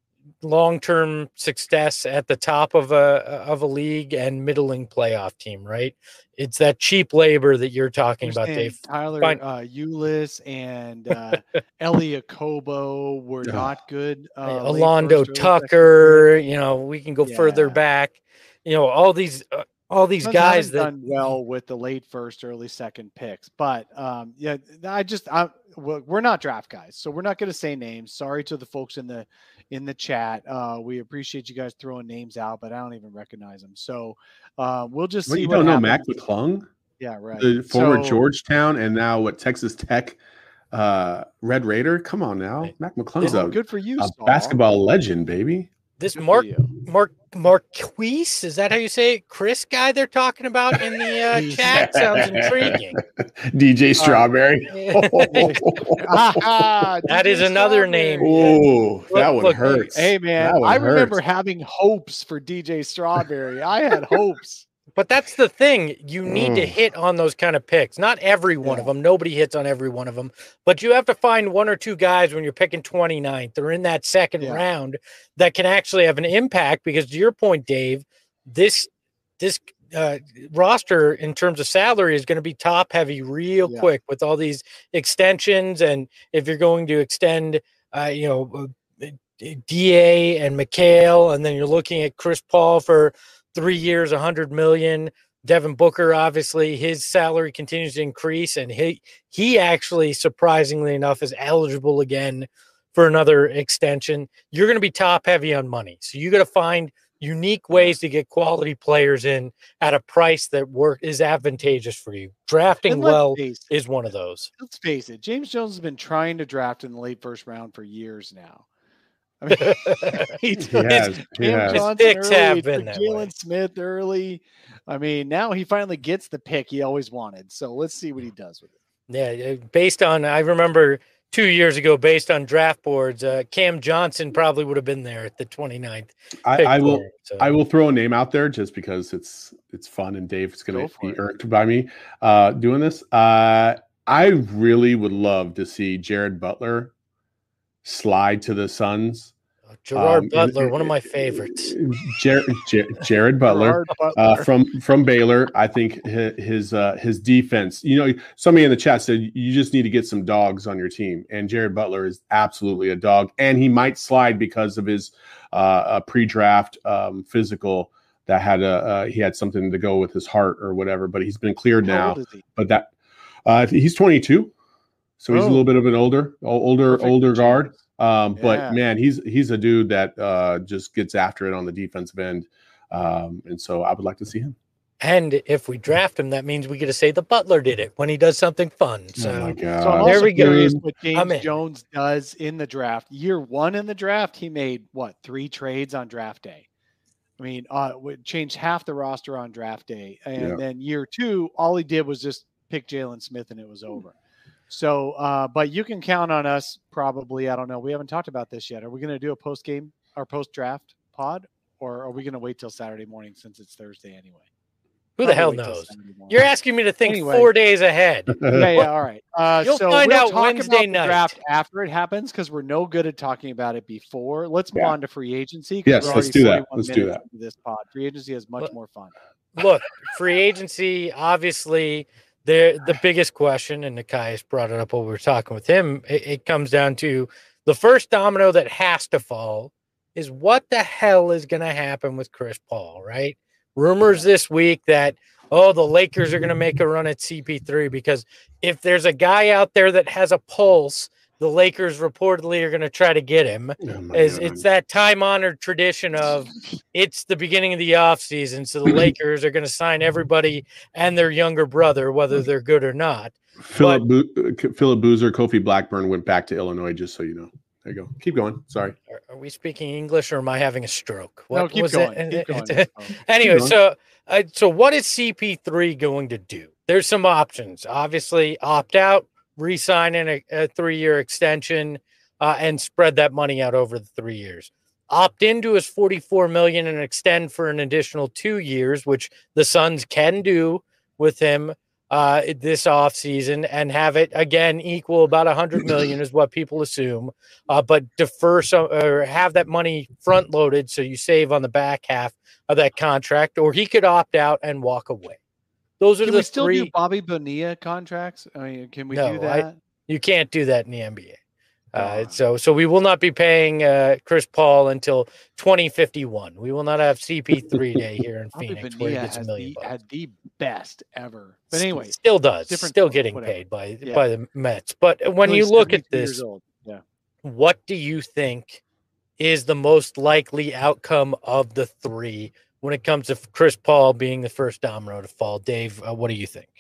long-term success at the top of a of a league and middling playoff team, right? It's that cheap labor that you're talking about, Dave. Tyler uh, Ulis and uh, Elliot Kobo were not good. Uh, Alondo Tucker, you know, we can go yeah. further back. You know, all these uh, all these Those guys that done well with the late first, early second picks. But um, yeah, I just I we're not draft guys, so we're not going to say names. Sorry to the folks in the in the chat. Uh, we appreciate you guys throwing names out, but I don't even recognize them. So uh, we'll just well, see. You what don't know happens. Mac McClung? Yeah, right. The former so, Georgetown and now what Texas Tech uh, Red Raider. Come on now, Mac McClung's a good for you, a Saul. Basketball legend, baby. This Mark Mark Marquise, is that how you say it? Chris guy they're talking about in the uh, chat sounds intriguing. D J Strawberry. Uh, that is another name. Oh, that one look, hurts. Hey man, one I remember hurts. having hopes for D J Strawberry. I had hopes. But that's the thing. You need mm. to hit on those kind of picks. Not every one yeah. of them. Nobody hits on every one of them. But you have to find one or two guys when you're picking twenty-ninth or in that second yeah. round that can actually have an impact. Because to your point, Dave, this this uh, roster in terms of salary is going to be top heavy real yeah. quick with all these extensions. And if you're going to extend, uh, you know, D A and McHale, and then you're looking at Chris Paul for three years, a hundred million. Devin Booker, obviously, his salary continues to increase, and he he actually, surprisingly enough, is eligible again for another extension. You're going to be top heavy on money, so you got to find unique ways to get quality players in at a price that work is advantageous for you. Drafting well is one of those. Let's face it, James Jones has been trying to draft in the late first round for years now. I mean, he took has, he Cam has. Johnson Picks early, have he been took that way. Jalen Smith early. I mean, now he finally gets the pick he always wanted. So let's see what he does with it. Yeah, based on, I remember two years ago based on draft boards, uh, Cam Johnson probably would have been there at the twenty-ninth. I, I will. Him, so. I will throw a name out there just because it's it's fun and Dave's going to be it. irked by me uh, doing this. Uh, I really would love to see Jared Butler slide to the Suns. Gerard um, Butler, one of my favorites. Jared, Jared Butler, Butler. Uh, from from Baylor. I think his his, uh, his defense. You know, somebody in the chat said you just need to get some dogs on your team, and Jared Butler is absolutely a dog, and he might slide because of his uh, a pre-draft um, physical that had a uh, he had something to go with his heart or whatever. But he's been cleared How now. old is he? But that uh, he's twenty-two, so he's oh. a little bit of an older older Perfect older chance. guard. Um, but yeah. man, he's he's a dude that uh, just gets after it on the defensive end, um, and so I would like to see him. And if we draft him, that means we get to say the Butler did it when he does something fun. So, oh my God. so I'm there also we go. curious what I'm James in. Jones does in the draft. Year one in the draft, he made what three trades on draft day. I mean, uh, would change half the roster on draft day, and Yeah. then year two, all he did was just pick Jalen Smith, and it was over. So, uh, but you can count on us probably. I don't know. We haven't talked about this yet. Are we going to do a post game or post draft pod, or are we going to wait till Saturday morning since it's Thursday anyway? Who the hell Probably wait till knows? Saturday morning. You're asking me to think Anyway. four days ahead. Yeah, yeah, all right. Uh, You'll so find we'll out talk Wednesday about the night. draft after it happens because we're no good at talking about it before. Let's move Yeah. on to free agency. 'cause Yes, we're let's already do that. forty-one Let's do minutes that. into This pod, free agency is much Look- more fun. Look, free agency, obviously, the the biggest question, and Nikias brought it up while we were talking with him, it, it comes down to the first domino that has to fall is what the hell is going to happen with Chris Paul, right? Rumors this week that, oh, the Lakers are going to make a run at C P three because if there's a guy out there that has a pulse, the Lakers reportedly are going to try to get him. Oh my Is God. it's that time-honored tradition of it's the beginning of the offseason, so the Lakers are going to sign everybody and their younger brother, whether they're good or not. Philip Bo- Philip Boozer, Kofi Blackburn went back to Illinois, just so you know. There you go. Keep going. Sorry. Are, are we speaking English or am I having a stroke? No, What keep was going. it? Keep going. Anyway, Keep going. so uh, so what is C P three going to do? There's some options. Obviously, opt out, re-sign in a, a three-year extension, uh, and spread that money out over the three years. Opt into his forty-four million dollars and extend for an additional two years, which the Suns can do with him uh, this offseason, and have it again equal about one hundred million dollars is what people assume. Uh, but defer some or have that money front loaded so you save on the back half of that contract, or he could opt out and walk away. Those are Can the we still three. do Bobby Bonilla contracts? I mean, can we No, do I- that? You can't do that in the N B A. Uh, Oh. so, so we will not be paying uh, Chris Paul until twenty fifty-one. We will not have C P three day here in Bobby Phoenix where he Bonilla gets a has million the, bucks. had the best ever. But anyway, still does, different still story, getting whatever. paid by Yeah. by the Mets. But when Only you look at seventy-two years this, old. Yeah. what do you think is the most likely outcome of the three when it comes to Chris Paul being the first domino to fall? Dave, uh, what do you think?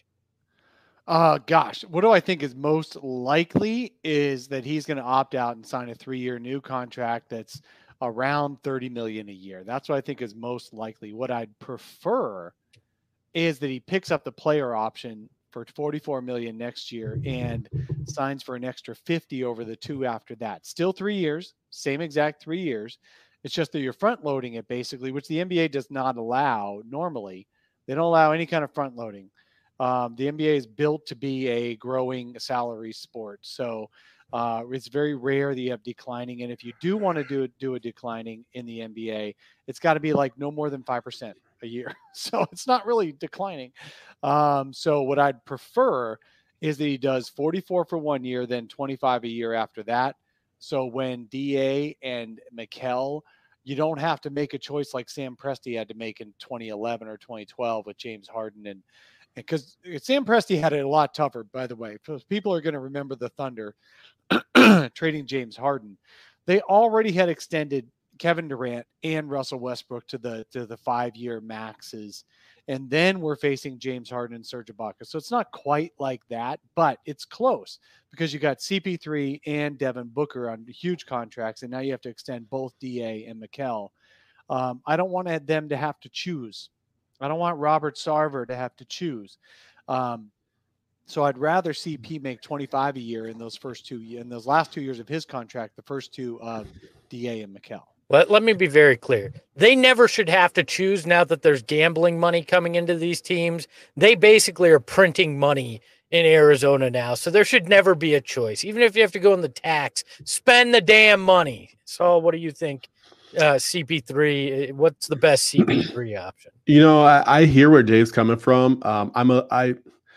Uh, gosh, what do I think is most likely is that he's going to opt out and sign a three-year new contract that's around thirty million a year. That's what I think is most likely. What I'd prefer is that he picks up the player option for forty-four million next year and signs for an extra fifty over the two after that. Still three years, same exact three years. It's just that you're front loading it basically, which the N B A does not allow normally. They don't allow any kind of front loading. Um, the N B A is built to be a growing salary sport. So uh, it's very rare that you have declining. And if you do want to do, do a declining in the N B A, it's got to be like no more than five percent a year. So it's not really declining. Um, so what I'd prefer is that he does forty-four for one year, then twenty-five a year after that. So when D A and Mikal, you don't have to make a choice like Sam Presti had to make in twenty eleven or twenty twelve with James Harden. And because Sam Presti had it a lot tougher, by the way. People are going to remember the Thunder trading James Harden. They already had extended Kevin Durant and Russell Westbrook to the to the five-year maxes. And then we're facing James Harden and Serge Ibaka. So it's not quite like that, but it's close because you got C P three and Devin Booker on huge contracts, and now you have to extend both D A and Mikal. Um, I don't want them to have to choose. I don't want Robert Sarver to have to choose. Um, So I'd rather see Pete make twenty-five a year in those first two in those last two years of his contract, the first two of D A and Mikel. Let, let me be very clear. They never should have to choose now that there's gambling money coming into these teams. They basically are printing money in Arizona now. So there should never be a choice. Even if you have to go in the tax, spend the damn money. So what do you think? Uh, C P three, what's the best C P three option? You know, I, I hear where Dave's coming from. Um, I'm a, I,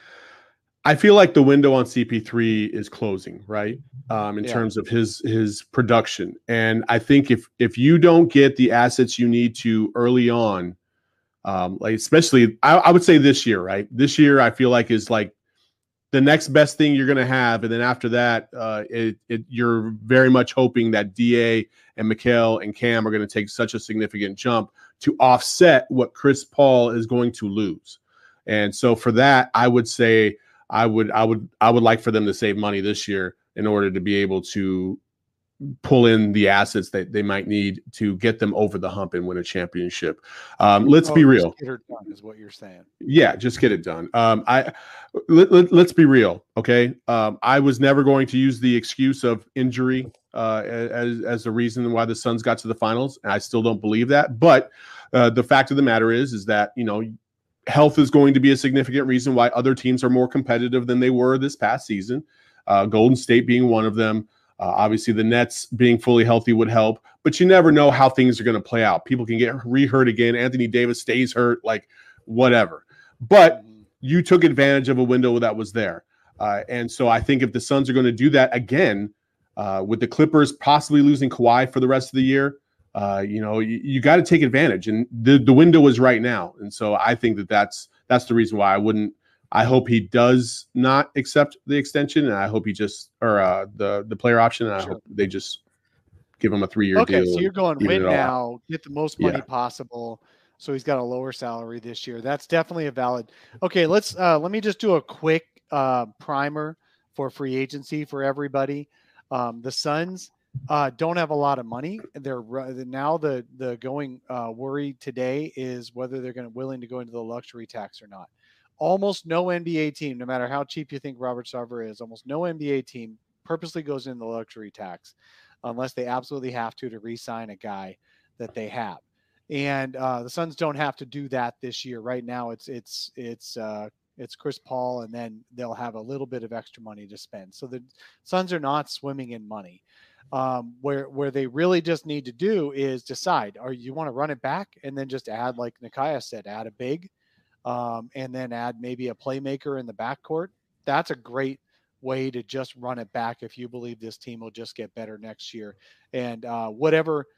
I feel like the window on C P three is closing, right? Um, in yeah. terms of his his production, and I think if if you don't get the assets you need to early on, um, like especially I, I would say this year, right? This year I feel like is like the next best thing you're going to have, and then after that, uh, it, it you're very much hoping that D A and Mikel and Cam are going to take such a significant jump to offset what Chris Paul is going to lose, and so for that, I would say. I would, I would, I would like for them to save money this year in order to be able to pull in the assets that they might need to get them over the hump and win a championship. Um, let's oh, be real. Get her done is what you're saying. Yeah, just get it done. Um, I let, let, let's be real, okay? Um, I was never going to use the excuse of injury uh, as as the reason why the Suns got to the finals, and I still don't believe that. But uh, the fact of the matter is, is that you know. Health is going to be a significant reason why other teams are more competitive than they were this past season. Uh, Golden State being one of them. Uh, obviously, the Nets being fully healthy would help, but you never know how things are going to play out. People can get re-hurt again. Anthony Davis stays hurt, like whatever. But you took advantage of a window that was there. Uh, and so I think if the Suns are going to do that again, uh, with the Clippers possibly losing Kawhi for the rest of the year, Uh, you know, you, you got to take advantage, and the, the window is right now. And so I think that that's that's the reason why I wouldn't. I hope he does not accept the extension, and I hope he just or uh, the the player option. And I sure. hope they just give him a three year okay, deal. So you're going win now, out. Get the most money yeah. possible. So he's got a lower salary this year. That's definitely a valid. Okay, let's uh, let me just do a quick uh, primer for free agency for everybody. Um, the Suns. Uh, don't have a lot of money. They're now the the going uh, worry today is whether they're going to willing to go into the luxury tax or not. Almost no N B A team, no matter how cheap you think Robert Sarver is, almost no N B A team purposely goes into the luxury tax unless they absolutely have to to re-sign a guy that they have. And uh, the Suns don't have to do that this year. Right now, it's it's it's uh, it's Chris Paul, and then they'll have a little bit of extra money to spend. So the Suns are not swimming in money. Um, where where they really just need to do is decide, are you want to run it back and then just add, like Nikaya said, add a big, um, and then add maybe a playmaker in the backcourt. That's a great way to just run it back if you believe this team will just get better next year. And uh, whatever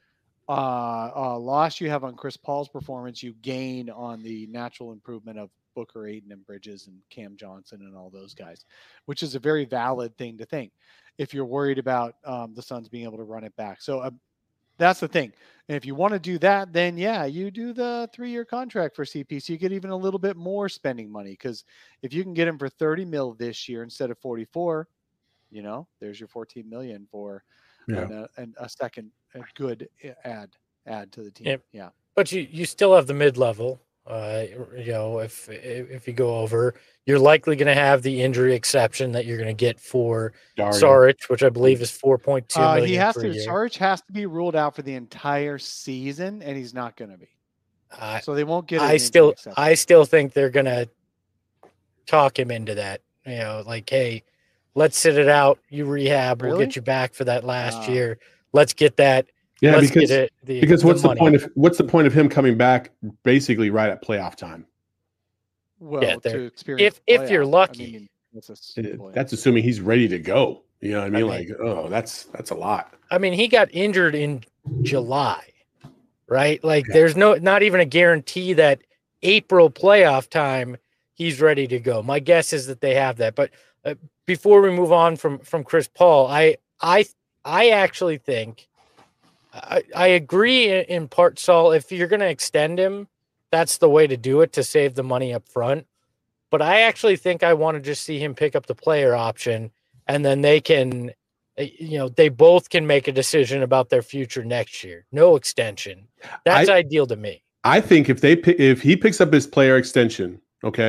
uh, uh, loss you have on Chris Paul's performance, you gain on the natural improvement of Booker, Ayton, and Bridges, and Cam Johnson, and all those guys, which is a very valid thing to think if you're worried about um, the Suns being able to run it back. So uh, that's the thing. And if you want to do that, then yeah, you do the three-year contract for C P. So you get even a little bit more spending money, because if you can get him for thirty mil this year instead of forty-four, you know, there's your fourteen million for yeah. an, a, an, a second a good add add to the team. Yeah, yeah. But you you still have the mid-level. Uh, you know, if if you go over, you're likely going to have the injury exception that you're going to get for Saric, which I believe is four point two uh, million. He has per to. year. Saric has to be ruled out for the entire season, and he's not going to be. Uh, so they won't get. I still, I still think they're going to talk him into that. You know, like, hey, let's sit it out. You rehab. Really? We'll get you back for that last uh, year. Let's get that. Yeah, Let's because it, the, because what's the, the point of what's the point of him coming back basically right at playoff time? Well, yeah, to experience if if you're lucky, I mean, that's, it, that's assuming he's ready to go. You know what I mean? I mean like, oh, that's that's a lot. I mean, he got injured in July, right? Like, yeah. there's no not even a guarantee that April playoff time he's ready to go. My guess is that they have that. But uh, before we move on from from Chris Paul, I I I actually think. I, I agree in part, Saul. If you're going to extend him, that's the way to do it to save the money up front. But I actually think I want to just see him pick up the player option, and then they can, you know, they both can make a decision about their future next year. No extension. That's I, ideal to me. I think if they if he picks up his player extension, okay,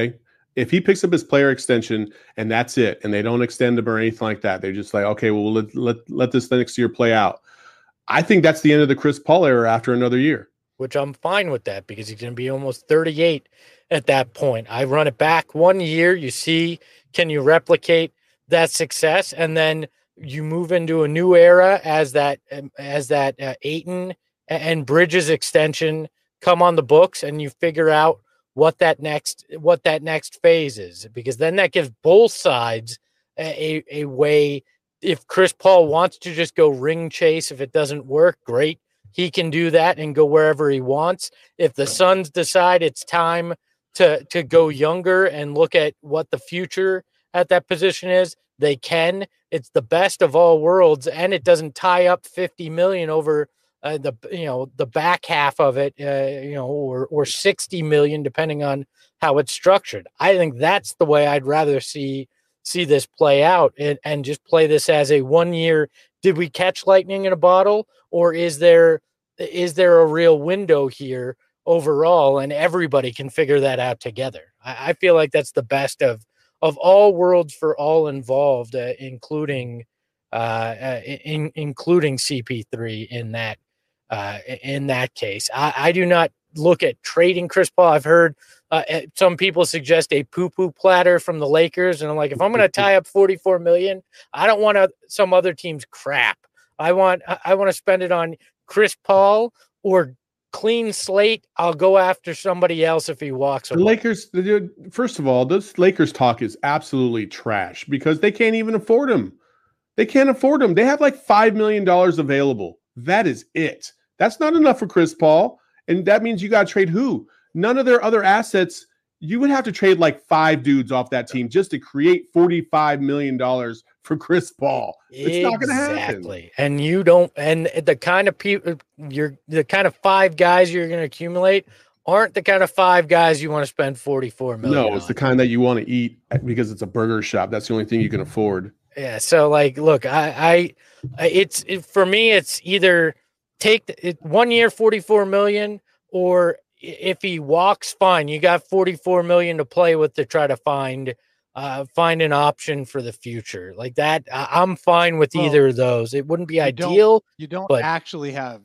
If he picks up his player extension and that's it, and they don't extend him or anything like that, they're just like, okay, well, let, let, let this next year play out. I think that's the end of the Chris Paul era after another year. Which I'm fine with that because he's going to be almost thirty-eight at that point. I run it back one year. You see, can you replicate that success? And then you move into a new era as that, as that uh, Ayton and Bridges extension come on the books, and you figure out what that next, what that next phase is, because then that gives both sides a, a way. If Chris Paul wants to just go ring chase, if it doesn't work, great. He can do that and go wherever he wants. If the Suns decide it's time to, to go younger and look at what the future at that position is, they can. It's the best of all worlds, and it doesn't tie up fifty million over uh, the you know the back half of it, uh, you know, or or sixty million depending on how it's structured. I think that's the way I'd rather see see this play out, and, and just play this as a one year. Did we catch lightning in a bottle, or is there is there a real window here overall, and everybody can figure that out together? I, I feel like that's the best of of all worlds for all involved, uh, including uh, uh, in, including C P three in that uh, in that case. I, I do not look at trading Chris Paul. I've heard uh, some people suggest a poo-poo platter from the Lakers, and I'm like, if I'm going to tie up forty-four million, I don't want a, some other team's crap. I want I want to spend it on Chris Paul or clean slate. I'll go after somebody else if he walks away. The Lakers, first of all, this Lakers talk is absolutely trash because they can't even afford him. They can't afford him. They have like five million dollars available. That is it. That's not enough for Chris Paul. And that means you got to trade who? None of their other assets. You would have to trade like five dudes off that team just to create forty-five million dollars for Chris Paul. It's exactly. not going to happen. Exactly. And you don't, and the kind of people, you're the kind of five guys you're going to accumulate aren't the kind of five guys you want to spend forty-four million. No, it's on. the kind that you want to eat because it's a burger shop. That's the only thing you can afford. Yeah. So like, look, I, I it's it, for me, it's either take the, it, one year, forty-four million, or if he walks, fine. You got forty-four million to play with to try to find, uh, find an option for the future like that. I, I'm fine with well, either of those. It wouldn't be you ideal. Don't, you don't but, actually have,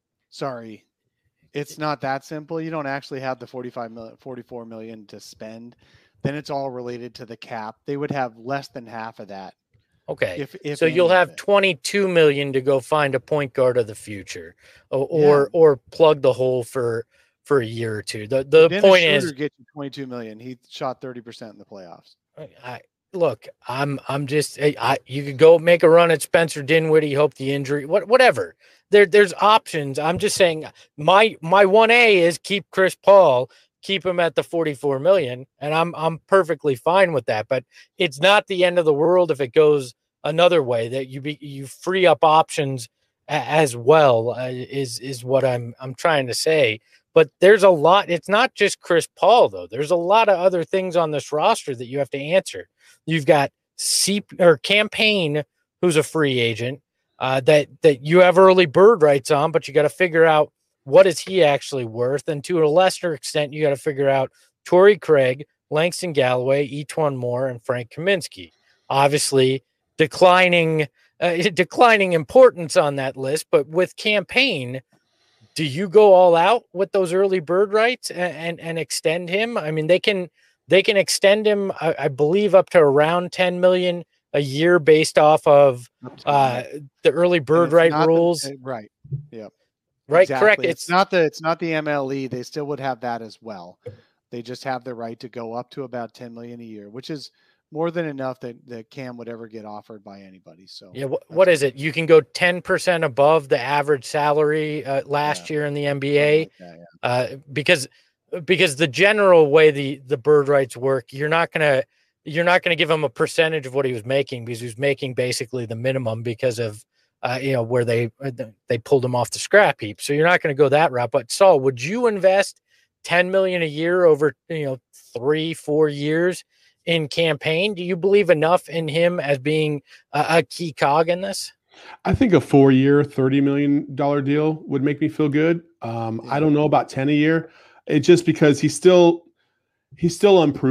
sorry, it's not that simple. You don't actually have the forty-five million, forty-four million to spend. Then it's all related to the cap. They would have less than half of that. Okay. If, if so you'll have twenty-two million to go find a point guard of the future, or or, yeah. or plug the hole for, for a year or two. The the Dennis point Schroeder is get you twenty-two million. He shot thirty percent in the playoffs. I look, I'm I'm just I, I you could go make a run at Spencer Dinwiddie, hope the injury, what whatever. There there's options. I'm just saying my my one A is keep Chris Paul, keep him at the forty-four million, and I'm I'm perfectly fine with that. But it's not the end of the world if it goes another way, that you be you free up options a, as well, uh, is is what I'm I'm trying to say. But there's a lot. It's not just Chris Paul, though. There's a lot of other things on this roster that you have to answer. You've got C or Campaign, who's a free agent, uh, that that you have early bird rights on, but you got to figure out what is he actually worth. And to a lesser extent, you got to figure out Torrey Craig, Langston Galloway, Etuan Moore, and Frank Kaminsky. Obviously, declining uh, declining importance on that list, but with Campaign, do you go all out with those early bird rights and, and, and extend him? I mean, they can they can extend him, I, I believe, up to around ten million a year based off of uh, the early bird right rules. The, right. Yeah. Right. Exactly. Correct. It's, it's not the it's not the M L E. They still would have that as well. They just have the right to go up to about ten million a year, which is more than enough that, that Cam would ever get offered by anybody. So yeah, what, what is it? You can go ten percent above the average salary uh, last yeah. year in the N B A, like that, yeah. uh, because because the general way the the bird rights work, you're not gonna you're not gonna give him a percentage of what he was making, because he was making basically the minimum because of uh, you know where they they pulled him off the scrap heap. So you're not going to go that route. But Saul, would you invest ten million a year over you know three four years in Campaign? Do you believe enough in him as being a, a key cog in this? I think a four-year, thirty million dollars deal would make me feel good. Um, yeah. I don't know about ten a year. It's just because he's still he's still unproven.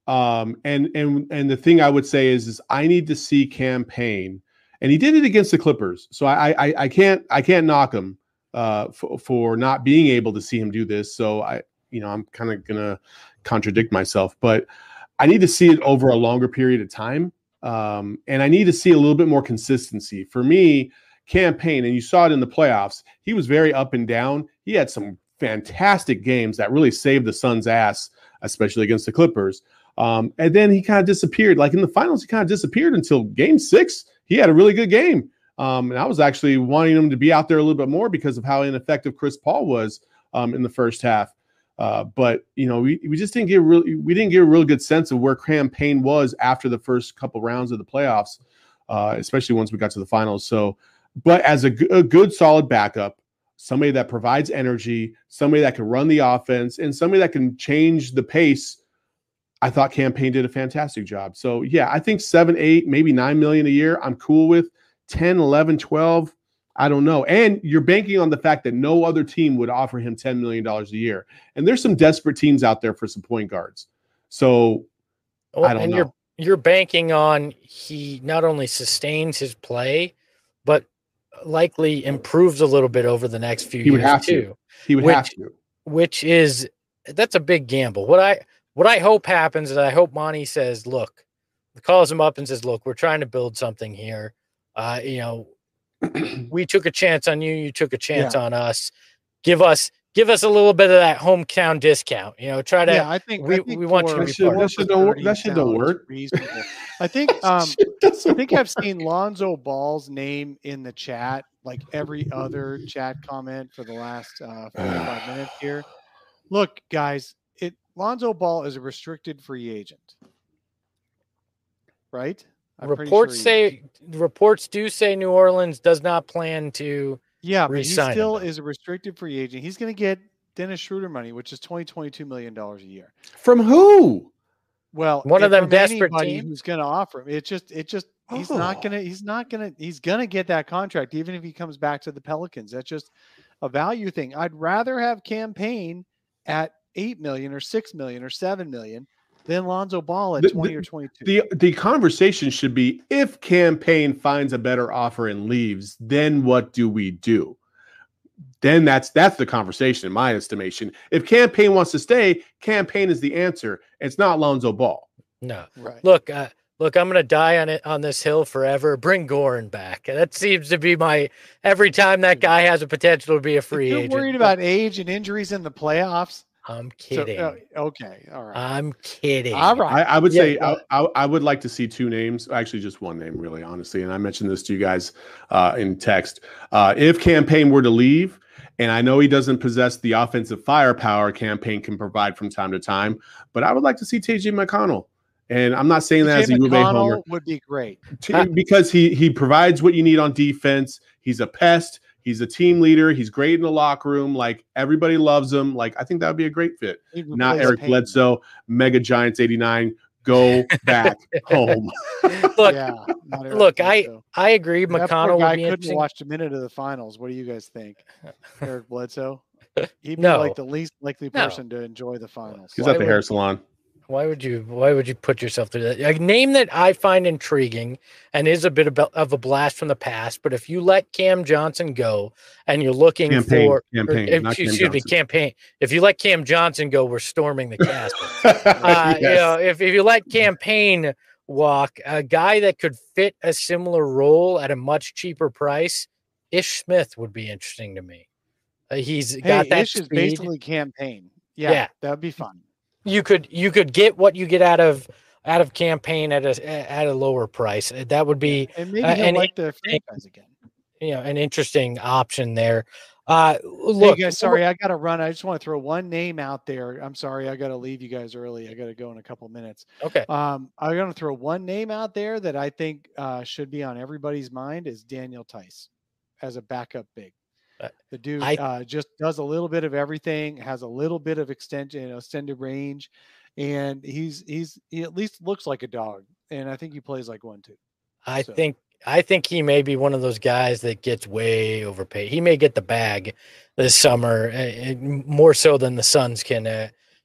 Um, and and and the thing I would say is, is I need to see Cam Payne, and he did it against the Clippers, so I I, I can't I can't knock him uh, for, for not being able to see him do this. So I you know I'm kind of gonna contradict myself, but I need to see it over a longer period of time, um, and I need to see a little bit more consistency. For me, Cam Payne, and you saw it in the playoffs, he was very up and down. He had some fantastic games that really saved the Suns' ass, especially against the Clippers. Um, and then he kind of disappeared. Like in the finals, he kind of disappeared until game six. He had a really good game. Um, and I was actually wanting him to be out there a little bit more because of how ineffective Chris Paul was um, in the first half. Uh, but, you know, we, we just didn't get really, we didn't get a real good sense of where Cam Payne was after the first couple rounds of the playoffs, uh, especially once we got to the finals. So, but as a, g- a good, solid backup, somebody that provides energy, somebody that can run the offense, and somebody that can change the pace, I thought Cam Payne did a fantastic job. So, yeah, I think seven, eight, maybe nine million a year, I'm cool with. ten, eleven, twelve, I don't know. And you're banking on the fact that no other team would offer him ten million dollars a year. And there's some desperate teams out there for some point guards. So, well, I don't and know. You're, you're banking on he not only sustains his play, but likely improves a little bit over the next few He would years have too. to. He would which, have to. Which is, that's a big gamble. What I what I hope happens is I hope Monty says, look, calls him up and says, look, we're trying to build something here. Uh, you know, we took a chance on you. You took a chance Yeah. on us. Give us, give us a little bit of that hometown discount. You know, try to. Yeah, I think we, I think we want you to for- be That shit- part of that it. shit don't work- thirty that shit don't sounds work. reasonable. I think um, I think I've seen Lonzo Ball's name in the chat, like every other chat comment for the last uh, forty-five minutes here. Look, guys, it Lonzo Ball is a restricted free agent, right? I'm pretty Reports sure he is. say reports do say New Orleans does not plan to. Yeah, but he re-sign him, still though. is a restricted free agent. He's going to get Dennis Schroeder money, which is twenty, twenty-two million dollars a year. From who? Well, One of if them from desperate anybody teams? who's going to offer him. It's just, it just, he's Oh. not going to, he's not going to, he's going to get that contract, even if he comes back to the Pelicans. That's just a value thing. I'd rather have Cam Payne at eight million or six million or seven million than Lonzo Ball at The- twenty the- or twenty-two. The the conversation should be, if Cam Payne finds a better offer and leaves, then what do we do? Then that's that's the conversation in my estimation. If Cam Payne wants to stay, Cam Payne is the answer. It's not Lonzo Ball. No, Right. look, uh, look, I'm gonna die on it on this hill forever. Bring Goran back. That seems to be my every time that guy has a potential to be a If free you're agent. worried about age and injuries in the playoffs. I'm So, kidding. uh, okay. All right. I'm kidding. All right. I, I would Yeah, say yeah. I, I, I would like to see two names, actually just one name, really, honestly. And I mentioned this to you guys uh, in text. Uh, if Cam Payne were to leave, and I know he doesn't possess the offensive firepower Cam Payne can provide from time to time, but I would like to see T J McConnell. And I'm not saying that as T J a U of A homer. McConnell would be great. T- because he he provides what you need on defense. He's a pest. He's a team leader. He's great in the locker room. Like, everybody loves him. Like, I think that would be a great fit. He'd Not replace Eric Payne. Bledsoe, Mega Giants eighty-nine. Go back home. Look, Yeah, not Eric look, I Bledsoe. I agree. That poor McConnell guy would be couldn't interesting. watch a minute of the finals. What do you guys think, Eric Bledsoe? He'd be No. like the least likely No. person to enjoy the finals. He's Why at the would- hair salon. Why would you? Why would you put yourself through that? A name that I find intriguing and is a bit of, of a blast from the past. But if you let Cam Johnson go and you're looking Campaign, for, campaign, or, not Cam excuse me, Johnson. campaign. If you let Cam Johnson go, we're storming the castle. uh, You Yes. know, if, if you let campaign walk, a guy that could fit a similar role at a much cheaper price, Ish Smith would be interesting to me. Uh, he's Hey, got that Ish is speed. basically campaign. Yeah, Yeah. that'd be fun. You could you could get what you get out of out of campaign at a at a lower price. That would be And maybe Uh, he'll and like the franchise again. you know an interesting option there. Uh, Hey look, guys, sorry, I gotta run. I just want to throw one name out there. I'm sorry, I gotta leave you guys early. I gotta go in a couple minutes. Okay, Um, I'm gonna throw one name out there that I think uh, should be on everybody's mind is Daniel Tice as a backup big. Uh, The dude I- uh, just does a little bit of everything, has a little bit of extension, you know, extended range, and he's he's he at least looks like a dog, and I think he plays like one too. I so- think I think he may be one of those guys that gets way overpaid. He may get the bag this summer, uh, uh, more so than the Suns can uh,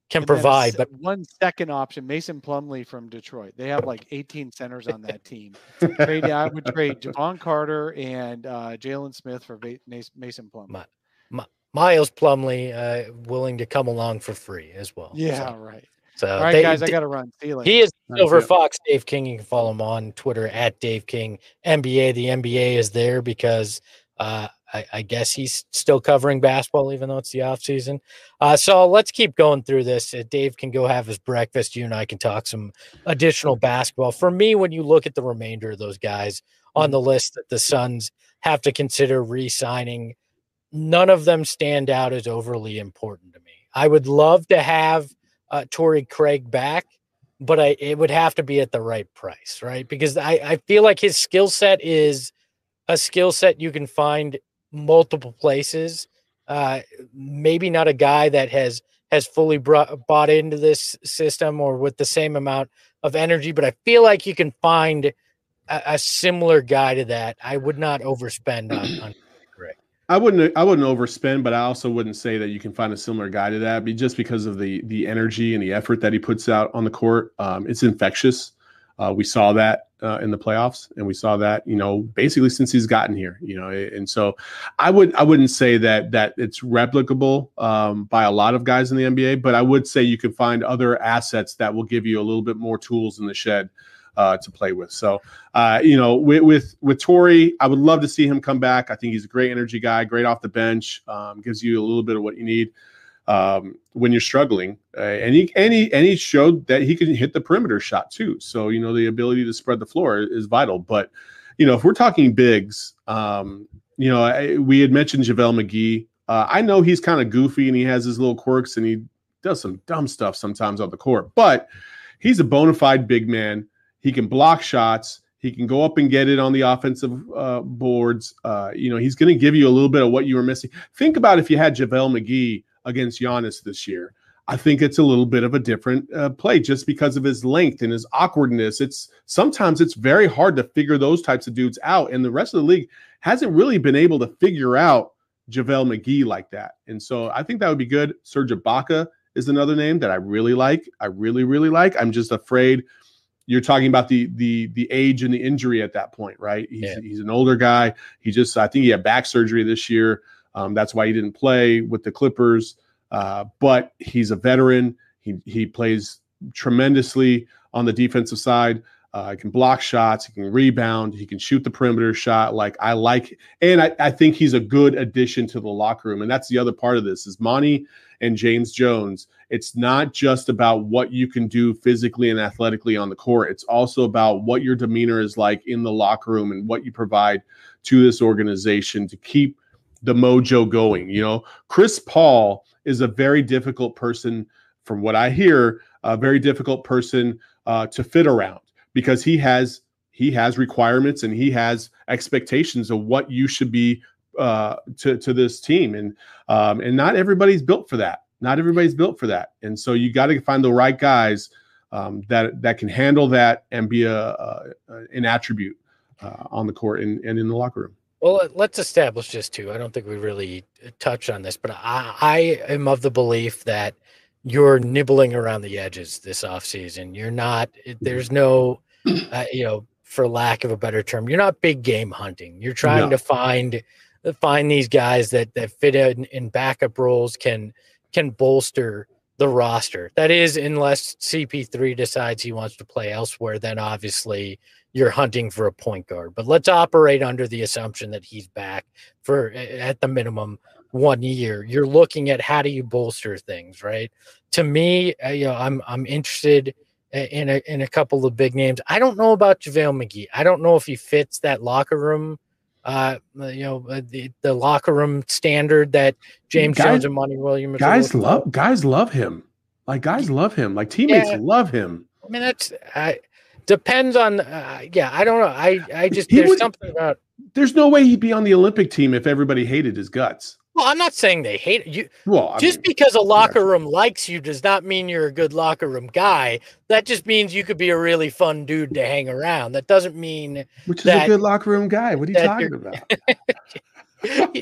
can And then a provide. s- But one second option, Mason Plumlee from Detroit. They have like eighteen centers on that team. Trade, I would trade Javon Carter and uh, Jalen Smith for Va- Mas- Mason Plumlee. my, my, Miles Plumlee uh, willing to come along for free as well. Yeah, So, right. so All right, they, guys, I they- got to run. See you later. he is Nice, Silver yeah. Fox Dave King. You can follow him on Twitter at Dave King N B A. The N B A is there because uh, I, I guess he's still covering basketball, even though it's the off season. Uh, so let's keep going through this. Uh, Dave can go have his breakfast. You and I can talk some additional basketball. For me, when you look at the remainder of those guys on the list that the Suns have to consider re-signing, none of them stand out as overly important to me. I would love to have uh, Torrey Craig back, but I, it would have to be at the right price, right? Because I, I feel like his skill set is a skill set you can find multiple places. Uh, maybe not a guy that has has fully brought, bought into this system or with the same amount of energy, but I feel like you can find a, a similar guy to that. I would not overspend on, on Craig. I wouldn't I wouldn't overspend, but I also wouldn't say that you can find a similar guy to that, be just because of the the energy and the effort that he puts out on the court. Um, it's infectious. Uh, we saw that uh, in the playoffs, and we saw that, you know, basically since he's gotten here, you know, and so I would I wouldn't say that that it's replicable um, by a lot of guys in the N B A, but I would say you can find other assets that will give you a little bit more tools in the shed Uh, to play with. So, uh, you know, with, with, with Torrey, I would love to see him come back. I think he's a great energy guy, great off the bench, um, gives you a little bit of what you need um, when you're struggling. Uh, and, he, and, he, and he showed that he could hit the perimeter shot too. So, you know, the ability to spread the floor is vital. But, you know, if we're talking bigs, um, you know, I, we had mentioned JaVale McGee. Uh, I know he's kind of goofy and he has his little quirks and he does some dumb stuff sometimes on the court, but he's a bona fide big man. He can block shots. He can go up and get it on the offensive uh, boards. Uh, you know, he's going to give you a little bit of what you were missing. Think about if you had JaVale McGee against Giannis this year. I think it's a little bit of a different uh, play just because of his length and his awkwardness. It's sometimes it's very hard to figure those types of dudes out, and the rest of the league hasn't really been able to figure out JaVale McGee like that. And so I think that would be good. Serge Ibaka is another name that I really like. I really, really like. I'm just afraid. You're talking about the the the age and the injury at that point, right? He's, Yeah. he's an older guy. He just, I think he had back surgery this year. Um, that's why he didn't play with the Clippers. Uh, but he's a veteran. He he plays tremendously on the defensive side. Uh, he can block shots. He can rebound. He can shoot the perimeter shot. Like I like, and I, I think he's a good addition to the locker room. And that's the other part of this is Monty and James Jones. It's not just about what you can do physically and athletically on the court. It's also about what your demeanor is like in the locker room and what you provide to this organization to keep the mojo going. You know, Chris Paul is a very difficult person, from what I hear, a very difficult person uh, to fit around because he has he has requirements and he has expectations of what you should be uh, to to this team, and um, and not everybody's built for that. Not everybody's built for that, and so you got to find the right guys um, that that can handle that and be a, a an attribute uh, on the court and, and in the locker room. Well, let's establish this too. I don't think we really touched on this, but I, I am of the belief that you're nibbling around the edges this offseason. You're not, there's no, uh, you know, for lack of a better term, you're not big game hunting. You're trying No. to find, find these guys that, that fit in, in backup roles, can, can bolster the roster. That is, unless C P three decides he wants to play elsewhere, then obviously you're hunting for a point guard. But let's operate under the assumption that he's back for, at the minimum, one year. You're looking at how do you bolster things, right? To me, uh, you know, I'm I'm interested in a in a couple of big names. I don't know about JaVale McGee. I don't know if he fits that locker room, uh, you know, uh, the, the locker room standard that James Guys- Jones and Monty Williams. are Guys looking love for. guys love him. Like guys love him. Like teammates Yeah. love him. I mean, that's I depends on. Uh, yeah, I don't know. I I just He there's would- something about. There's no way he'd be on the Olympic team if everybody hated his guts. Well, I'm not saying they hate you. Well, I Just mean, because a locker room likes you does not mean you're a good locker room guy. That just means you could be a really fun dude to hang around. That doesn't mean which is that- a good locker room guy. What are you that talking you're- about?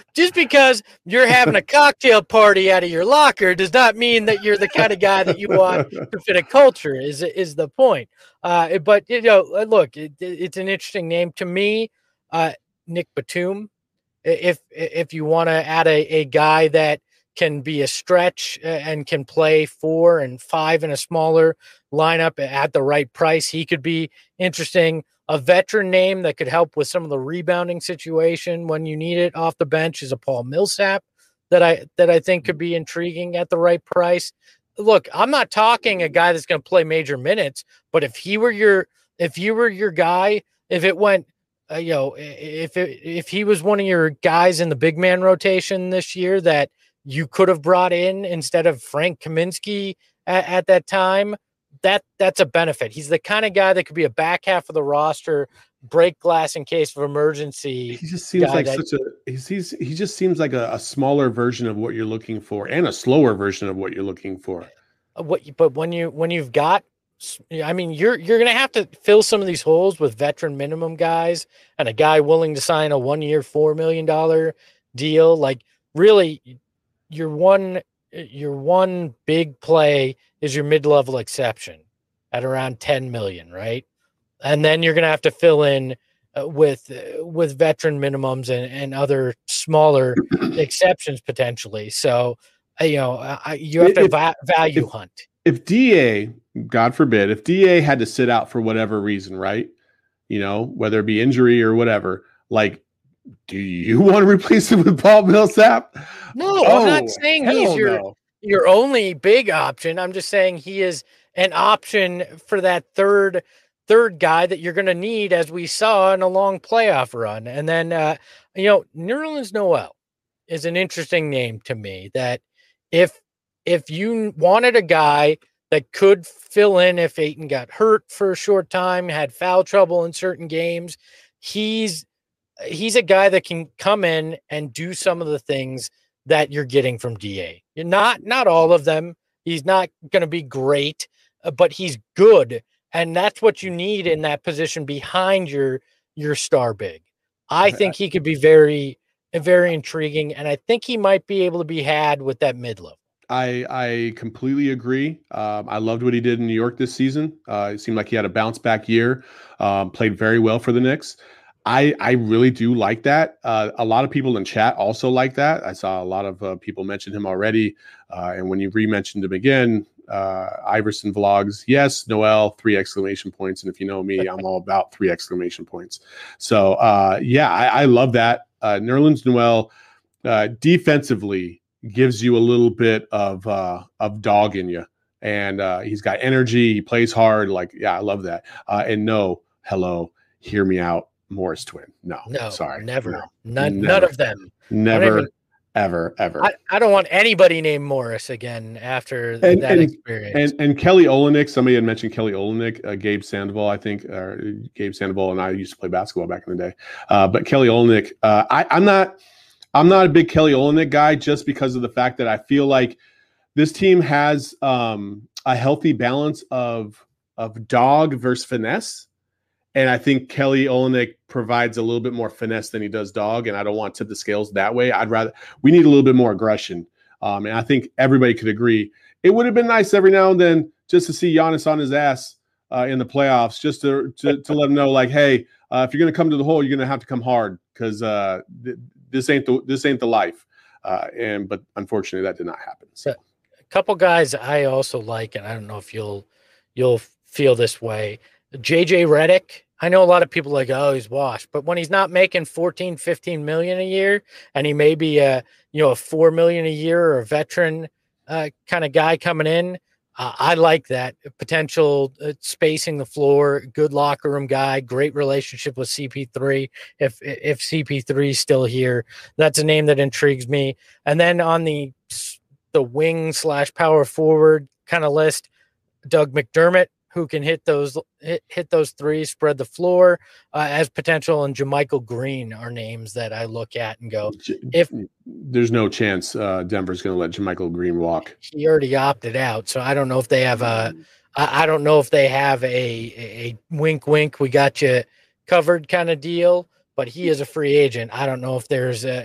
just because you're having a cocktail party out of your locker does not mean that you're the kind of guy that you want to fit a culture. Is is the point? Uh, but you know, look, it, it's an interesting name to me, uh, Nick Batum. If if you want to add a, a guy that can be a stretch and can play four and five in a smaller lineup at the right price, he could be interesting. A veteran name that could help with some of the rebounding situation when you need it off the bench is a Paul Millsap that I that I think could be intriguing at the right price. Look, I'm not talking a guy that's going to play major minutes, but if he were your if you were your guy, if it went, uh, you know, if it, if he was one of your guys in the big man rotation this year that you could have brought in instead of Frank Kaminsky at, at that time, that that's a benefit. He's the kind of guy that could be a back half of the roster, break glass in case of emergency. He just seems like that, such a he's, he's he just seems like a, a smaller version of what you're looking for and a slower version of what you're looking for. What but when you when you've got I mean you're you're going to have to fill some of these holes with veteran minimum guys and a guy willing to sign a one-year four million dollars deal. Like really your one your one big play is your mid-level exception at around ten million, right? And then you're going to have to fill in uh, with uh, with veteran minimums and, and other smaller exceptions potentially. So, uh, you know, uh, you have to if, va- value if, hunt. If D A, God forbid, if D A had to sit out for whatever reason, right? You know, whether it be injury or whatever, like, do you want to replace him with Paul Millsap? No, oh, I'm not saying he's your no. your only big option. I'm just saying he is an option for that third third guy that you're going to need, as we saw in a long playoff run. And then, uh, you know, Nerlens Noel is an interesting name to me that if, if you wanted a guy that could fill in if Ayton got hurt for a short time, had foul trouble in certain games, he's, he's a guy that can come in and do some of the things that you're getting from D A. You're not, not all of them. He's not going to be great, but he's good. And that's what you need in that position behind your, your star big. I think he could be very, very intriguing. And I think he might be able to be had with that mid level. I, I completely agree. Um, I loved what he did in New York this season. Uh, it seemed like he had a bounce back year, um, played very well for the Knicks. I, I really do like that. Uh, a lot of people in chat also like that. I saw a lot of uh, people mention him already. Uh, and when you re-mentioned him again, uh, Iverson vlogs, yes, Noel, three exclamation points. And if you know me, I'm all about three exclamation points. So, uh, yeah, I, I love that. Uh, Nerlens Noel uh, defensively gives you a little bit of uh, of dog in you. And uh, he's got energy. He plays hard. Like, yeah, I love that. Uh, and no, hello, hear me out. Morris twin. No, no, sorry. Never. No, none, never. none of them. Never, even, ever, ever. I, I don't want anybody named Morris again after and, that and, experience. And and Kelly Olynyk, somebody had mentioned Kelly Olynyk, uh, Gabe Sandoval, I think. Uh, Gabe Sandoval and I used to play basketball back in the day. Uh, but Kelly Olynyk, uh, I, I'm not I'm not a big Kelly Olynyk guy just because of the fact that I feel like this team has um, a healthy balance of of dog versus finesse. And I think Kelly Olynyk provides a little bit more finesse than he does dog. And I don't want to tip the scales that way. I'd rather, we need a little bit more aggression. Um, and I think everybody could agree. It would have been nice every now and then just to see Giannis on his ass uh, in the playoffs, just to, to, to let him know, like, hey, uh, if you're going to come to the hole, you're going to have to come hard because uh, th- this ain't the, this ain't the life. Uh, and, but unfortunately that did not happen. So a couple guys I also like, and I don't know if you'll, you'll feel this way. J J Redick, I know a lot of people are like, oh, he's washed, but when he's not making fourteen, fifteen million a year, and he may be a, you know, a four million a year or a veteran uh, kind of guy coming in, uh, I like that potential uh, spacing the floor, good locker room guy, great relationship with C P three. If, if C P three is still here, that's a name that intrigues me. And then on the, the wing slash power forward kind of list, Doug McDermott, who can hit those hit, hit those threes, spread the floor uh, as potential, and JaMychal Green are names that I look at and go, if there's no chance uh, Denver's going to let JaMychal Green walk. He already opted out, so I don't know if they have a, I, I don't know if they have a, a a wink wink, we got you covered kind of deal. But he is a free agent. I don't know if there's a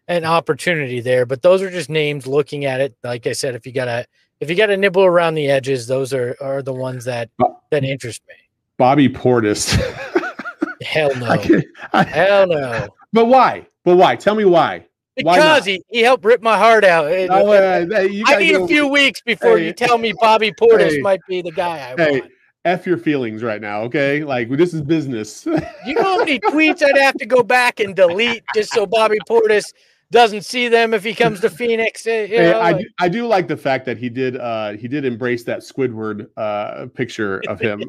an opportunity there. But those are just names looking at it. Like I said, if you gotta if you gotta nibble around the edges, those are are the ones that that interest me. Bobby Portis. Hell no. I I, Hell no. But why? But why? Tell me why. Because he, he helped rip my heart out. Oh, uh, you I need go, a few weeks before hey, you tell me Bobby Portis hey, might be the guy I hey, want. F your feelings right now, okay? Like, this is business. You know how many tweets I'd have to go back and delete just so Bobby Portis doesn't see them if he comes to Phoenix? You know, hey, I, like, do, I do like the fact that he did uh, he did embrace that Squidward uh, picture of him.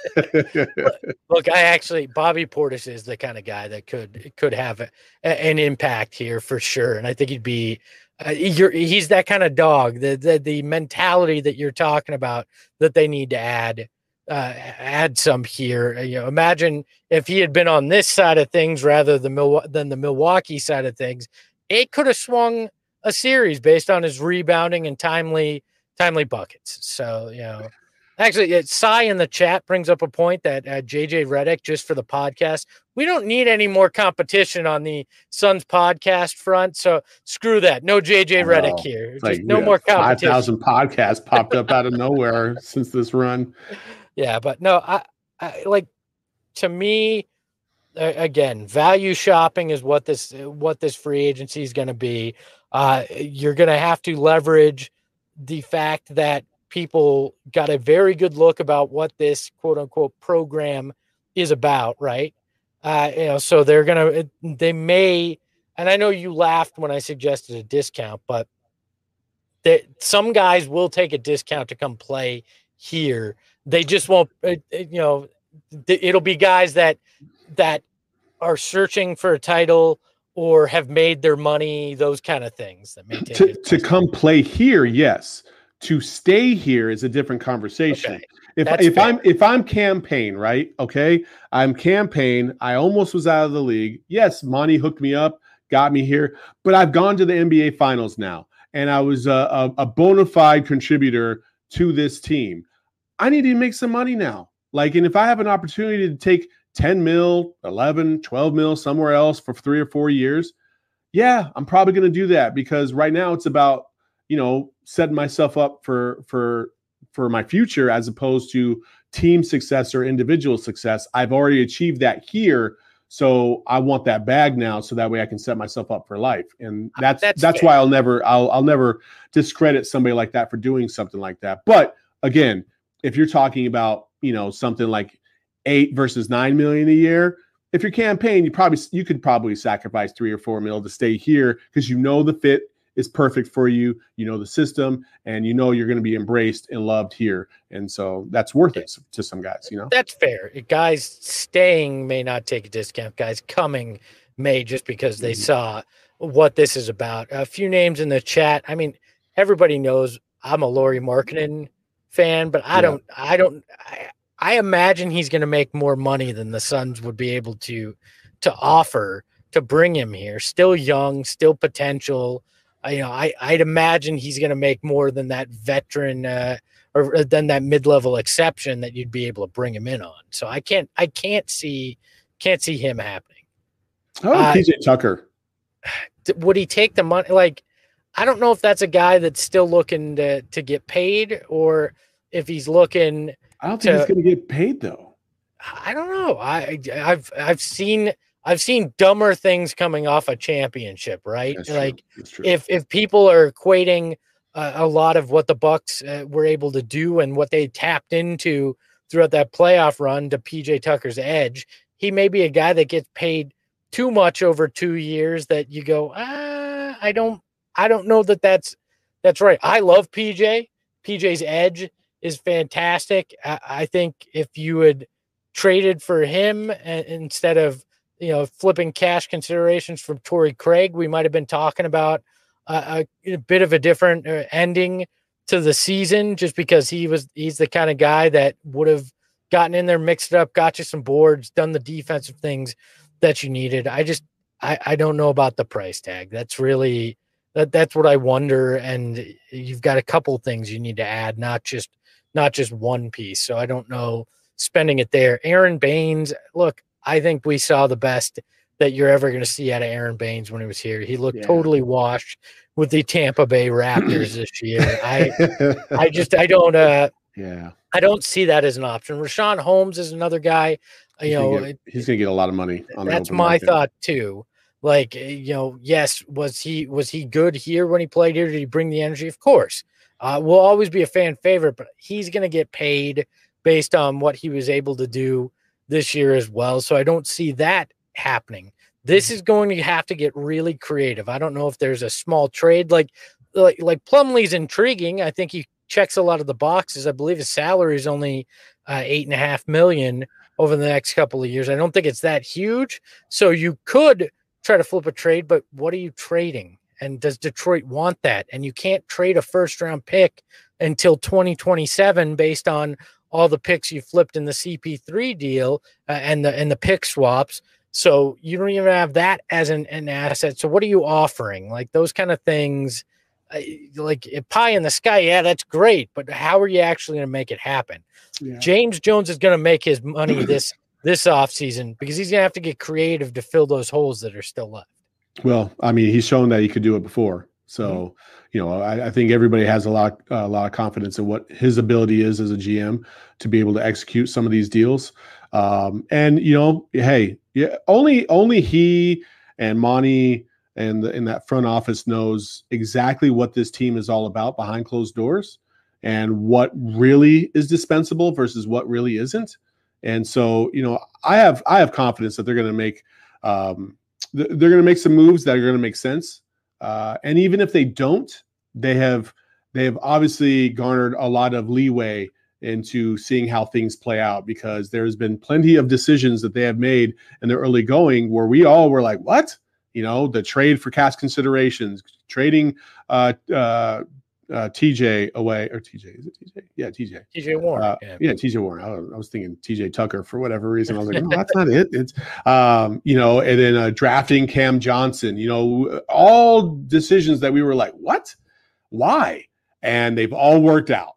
Look, I actually Bobby Portis is the kind of guy that could could have a, an impact here for sure, and I think he'd be. Uh, you're, he's that kind of dog. The, the the mentality that you're talking about that they need to add uh, add some here. You know, imagine if he had been on this side of things rather than Mil- than the Milwaukee side of things. It could have swung a series based on his rebounding and timely timely buckets. So, you know, actually, it, Cy in the chat brings up a point that uh, J J Redick, just for the podcast, we don't need any more competition on the Suns podcast front. So screw that. No J J Redick oh, here. Just like, no more competition. five thousand podcasts popped up out of nowhere since this run. Yeah, but no, I, I like to me, again, value shopping is what this what this free agency is going to be. Uh, you're going to have to leverage the fact that people got a very good look about what this quote unquote program is about, right? Uh, you know, so they're going to they may, and I know you laughed when I suggested a discount, but that some guys will take a discount to come play here. They just won't, you know, it'll be guys that. that are searching for a title or have made their money, those kind of things that may take to, to come play here. Yes. To stay here is a different conversation. Okay. If That's if fair. I'm if I'm campaign, right? Okay. I'm campaign. I almost was out of the league. Yes, Monty hooked me up, got me here, but I've gone to the N B A finals now. And I was a, a, a bona fide contributor to this team. I need to make some money now. Like, and if I have an opportunity to take ten mil, eleven, twelve mil somewhere else for three or four years. Yeah, I'm probably going to do that because right now it's about, you know, setting myself up for, for, for my future as opposed to team success or individual success. I've already achieved that here. So I want that bag now so that way I can set myself up for life. And that's, that's, that's why I'll never, I'll, I'll never discredit somebody like that for doing something like that. But again, if you're talking about, you know, something like eight versus nine million a year. If you're campaign, you probably you could probably sacrifice three or four mil to stay here because you know the fit is perfect for you. You know the system, and you know you're going to be embraced and loved here. And so that's worth it to some guys. You know that's fair. Guys staying may not take a discount. Guys coming may just because they mm-hmm. saw what this is about. A few names in the chat. I mean, everybody knows I'm a Lauri Markkanen fan, but I yeah. don't. I don't. I, I imagine he's going to make more money than the Suns would be able to to offer to bring him here. Still young, still potential. I, you know, I I'd imagine he's going to make more than that veteran uh, or than that mid-level exception that you'd be able to bring him in on. So I can't I can't see can't see him happening. Oh, uh, P J Tucker. Would he take the money? Like, I don't know if that's a guy that's still looking to to get paid or if he's looking. I don't think to, he's going to get paid though. I don't know. I I've I've seen I've seen dumber things coming off a championship, right? That's like true. if if people are equating uh, a lot of what the Bucks uh, were able to do and what they tapped into throughout that playoff run to P J Tucker's edge, he may be a guy that gets paid too much over two years that you go, ah, I don't I don't know that that's that's right. I love P J. P J's edge is fantastic. I, I think if you had traded for him and, instead of, you know, flipping cash considerations from Torrey Craig, we might have been talking about uh, a, a bit of a different uh, ending to the season just because he was, he's the kind of guy that would have gotten in there, mixed it up, got you some boards, done the defensive things that you needed. I just, I, I don't know about the price tag. That's really, that that's what I wonder. And you've got a couple things you need to add, not just, not just one piece. So I don't know spending it there. Aaron Baines, look, I think we saw the best that you're ever going to see out of Aaron Baines when he was here. He looked Yeah. totally washed with the Tampa Bay Raptors this year. I I just I don't uh yeah. I don't see that as an option. Rashawn Holmes is another guy. You He's know, gonna get, he's going to get a lot of money on the that's open my market. thought too. Like, you know, yes, was he was he good here when he played here? Did he bring the energy? Of course. Uh, will always be a fan favorite, but he's going to get paid based on what he was able to do this year as well. So I don't see that happening. This is going to have to get really creative. I don't know if there's a small trade like like like Plumlee's intriguing. I think he checks a lot of the boxes. I believe his salary is only uh, eight and a half million over the next couple of years. I don't think it's that huge. So you could try to flip a trade, but what are you trading? And does Detroit want that? And you can't trade a first round pick until twenty twenty-seven based on all the picks you flipped in the C P three deal uh, and the and the pick swaps. So you don't even have that as an, an asset. So what are you offering? Like those kind of things, uh, like pie in the sky. Yeah, that's great. But how are you actually going to make it happen? Yeah. James Jones is going to make his money this this offseason because he's going to have to get creative to fill those holes that are still left. Well, I mean, he's shown that he could do it before. So, Mm-hmm. you know, I, I think everybody has a lot, a lot of confidence in what his ability is as a G M to be able to execute some of these deals. Um, and you know, hey, yeah, only only he and Monty and the, in that front office knows exactly what this team is all about behind closed doors and what really is dispensable versus what really isn't. And so, you know, I have I have confidence that they're going to make. Um, they're going to make some moves that are going to make sense. Uh, and even if they don't, they have they have obviously garnered a lot of leeway into seeing how things play out because there's been plenty of decisions that they have made in the early going where we all were like, what? You know, the trade for cash considerations, trading uh, uh, uh, T J away, or T J, is it T J? Yeah, T J. T J Warren. Uh, yeah. yeah, T J Warren. I, I was thinking T J Tucker for whatever reason. I was like, no, that's not it. It's, um, you know, and then uh, drafting Cam Johnson, you know, all decisions that we were like, what? Why? And they've all worked out.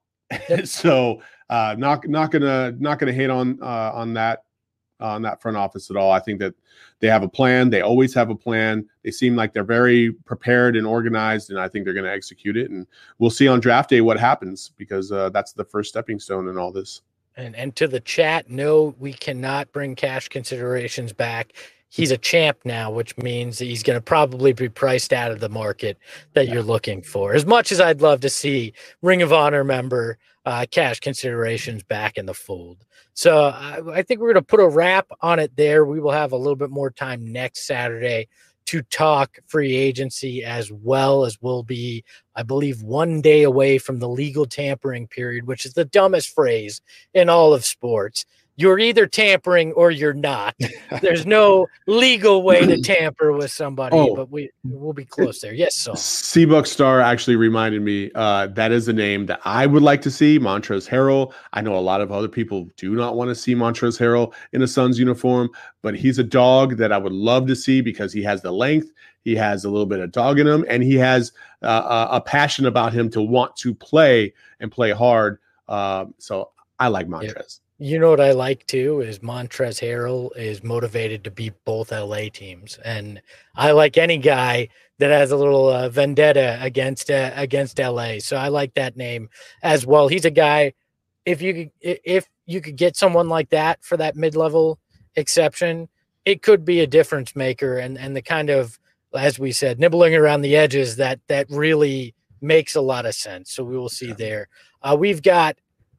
so uh, not not gonna not gonna hate on uh, on that uh, on that front office at all. I think that they have a plan. They always have a plan. They seem like they're very prepared and organized, and I think they're going to execute it. And we'll see on draft day what happens because uh, that's the first stepping stone in all this. And and to the chat, no, we cannot bring cash considerations back. He's a champ now, which means that he's going to probably be priced out of the market that yeah. you're looking for. As much as I'd love to see Ring of Honor member uh, cash considerations back in the fold. So I, I think we're going to put a wrap on it there. We will have a little bit more time next Saturday to talk free agency, as well as we'll be, I believe, one day away from the legal tampering period, which is the dumbest phrase in all of sports. You're either tampering or you're not. There's no legal way to tamper with somebody, oh, but we we'll be close there. Yes, so Seabuck Star actually reminded me uh, that is a name that I would like to see. Montrezl Harrell. I know a lot of other people do not want to see Montrezl Harrell in a Suns uniform, but he's a dog that I would love to see because he has the length, he has a little bit of dog in him, and he has uh, a passion about him to want to play and play hard. Uh, so I like Montrez. Yep. You know what I like too is Montrezl Harrell is motivated to beat both L A teams, and I like any guy that has a little uh, vendetta against uh, against L A. So I like that name as well. He's a guy. If you could, if you could get someone like that for that mid level exception, it could be a difference maker, and and the kind of, as we said, nibbling around the edges that that really makes a lot of sense. So we will see yeah. there. Uh, we've got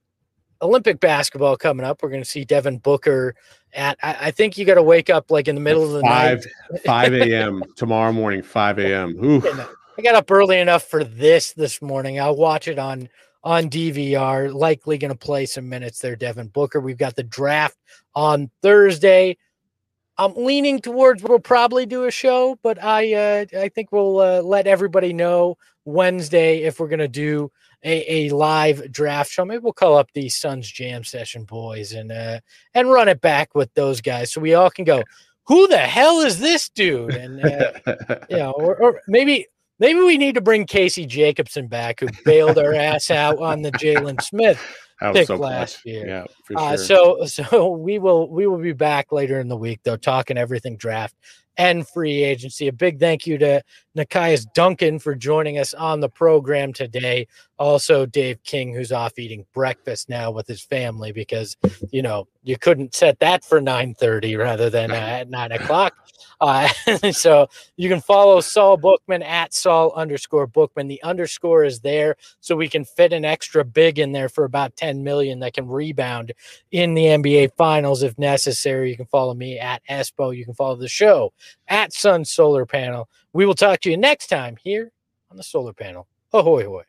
Olympic basketball coming up. We're going to see Devin Booker at, I, I think you got to wake up like in the middle of the five, night. five a.m. tomorrow morning, five a.m. I got up early enough for this this morning. I'll watch it on, on D V R, likely going to play some minutes there, Devin Booker. We've got the draft on Thursday. I'm leaning towards we'll probably do a show, but I uh, I think we'll uh, let everybody know Wednesday if we're going to do A, a live draft show. Maybe we'll call up the Suns Jam Session boys and uh, and run it back with those guys so we all can go, who the hell is this dude? And uh, you know, or, or maybe maybe we need to bring Casey Jacobson back, who bailed our ass out on the Jalen Smith pick so last clutch. year. Yeah, for sure. Uh, so so we will we will be back later in the week though, talking everything draft. and free agency. A big thank you to Nekias Duncan for joining us on the program today. Also, Dave King, who's off eating breakfast now with his family because, you know, you couldn't set that for nine thirty rather than uh, at nine o'clock. Uh, so you can follow Saul Bookman at Saul underscore Bookman. The underscore is there so we can fit an extra big in there for about ten million that can rebound in the N B A Finals if necessary. You can follow me at Espo. You can follow the show at Sun Solar Panel. We will talk to you next time here on the Solar Panel. Ahoy, hoy.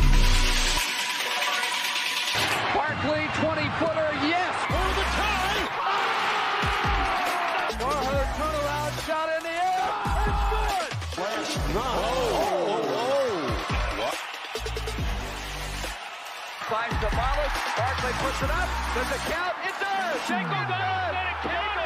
Barkley, twenty-footer, yes, for the tie. For her turnaround shot in the air. It's good. Flash, no. Oh, oh, oh. Finds the Barkley. Barkley puts it up. Does it count? It does. Shake it does. It counts.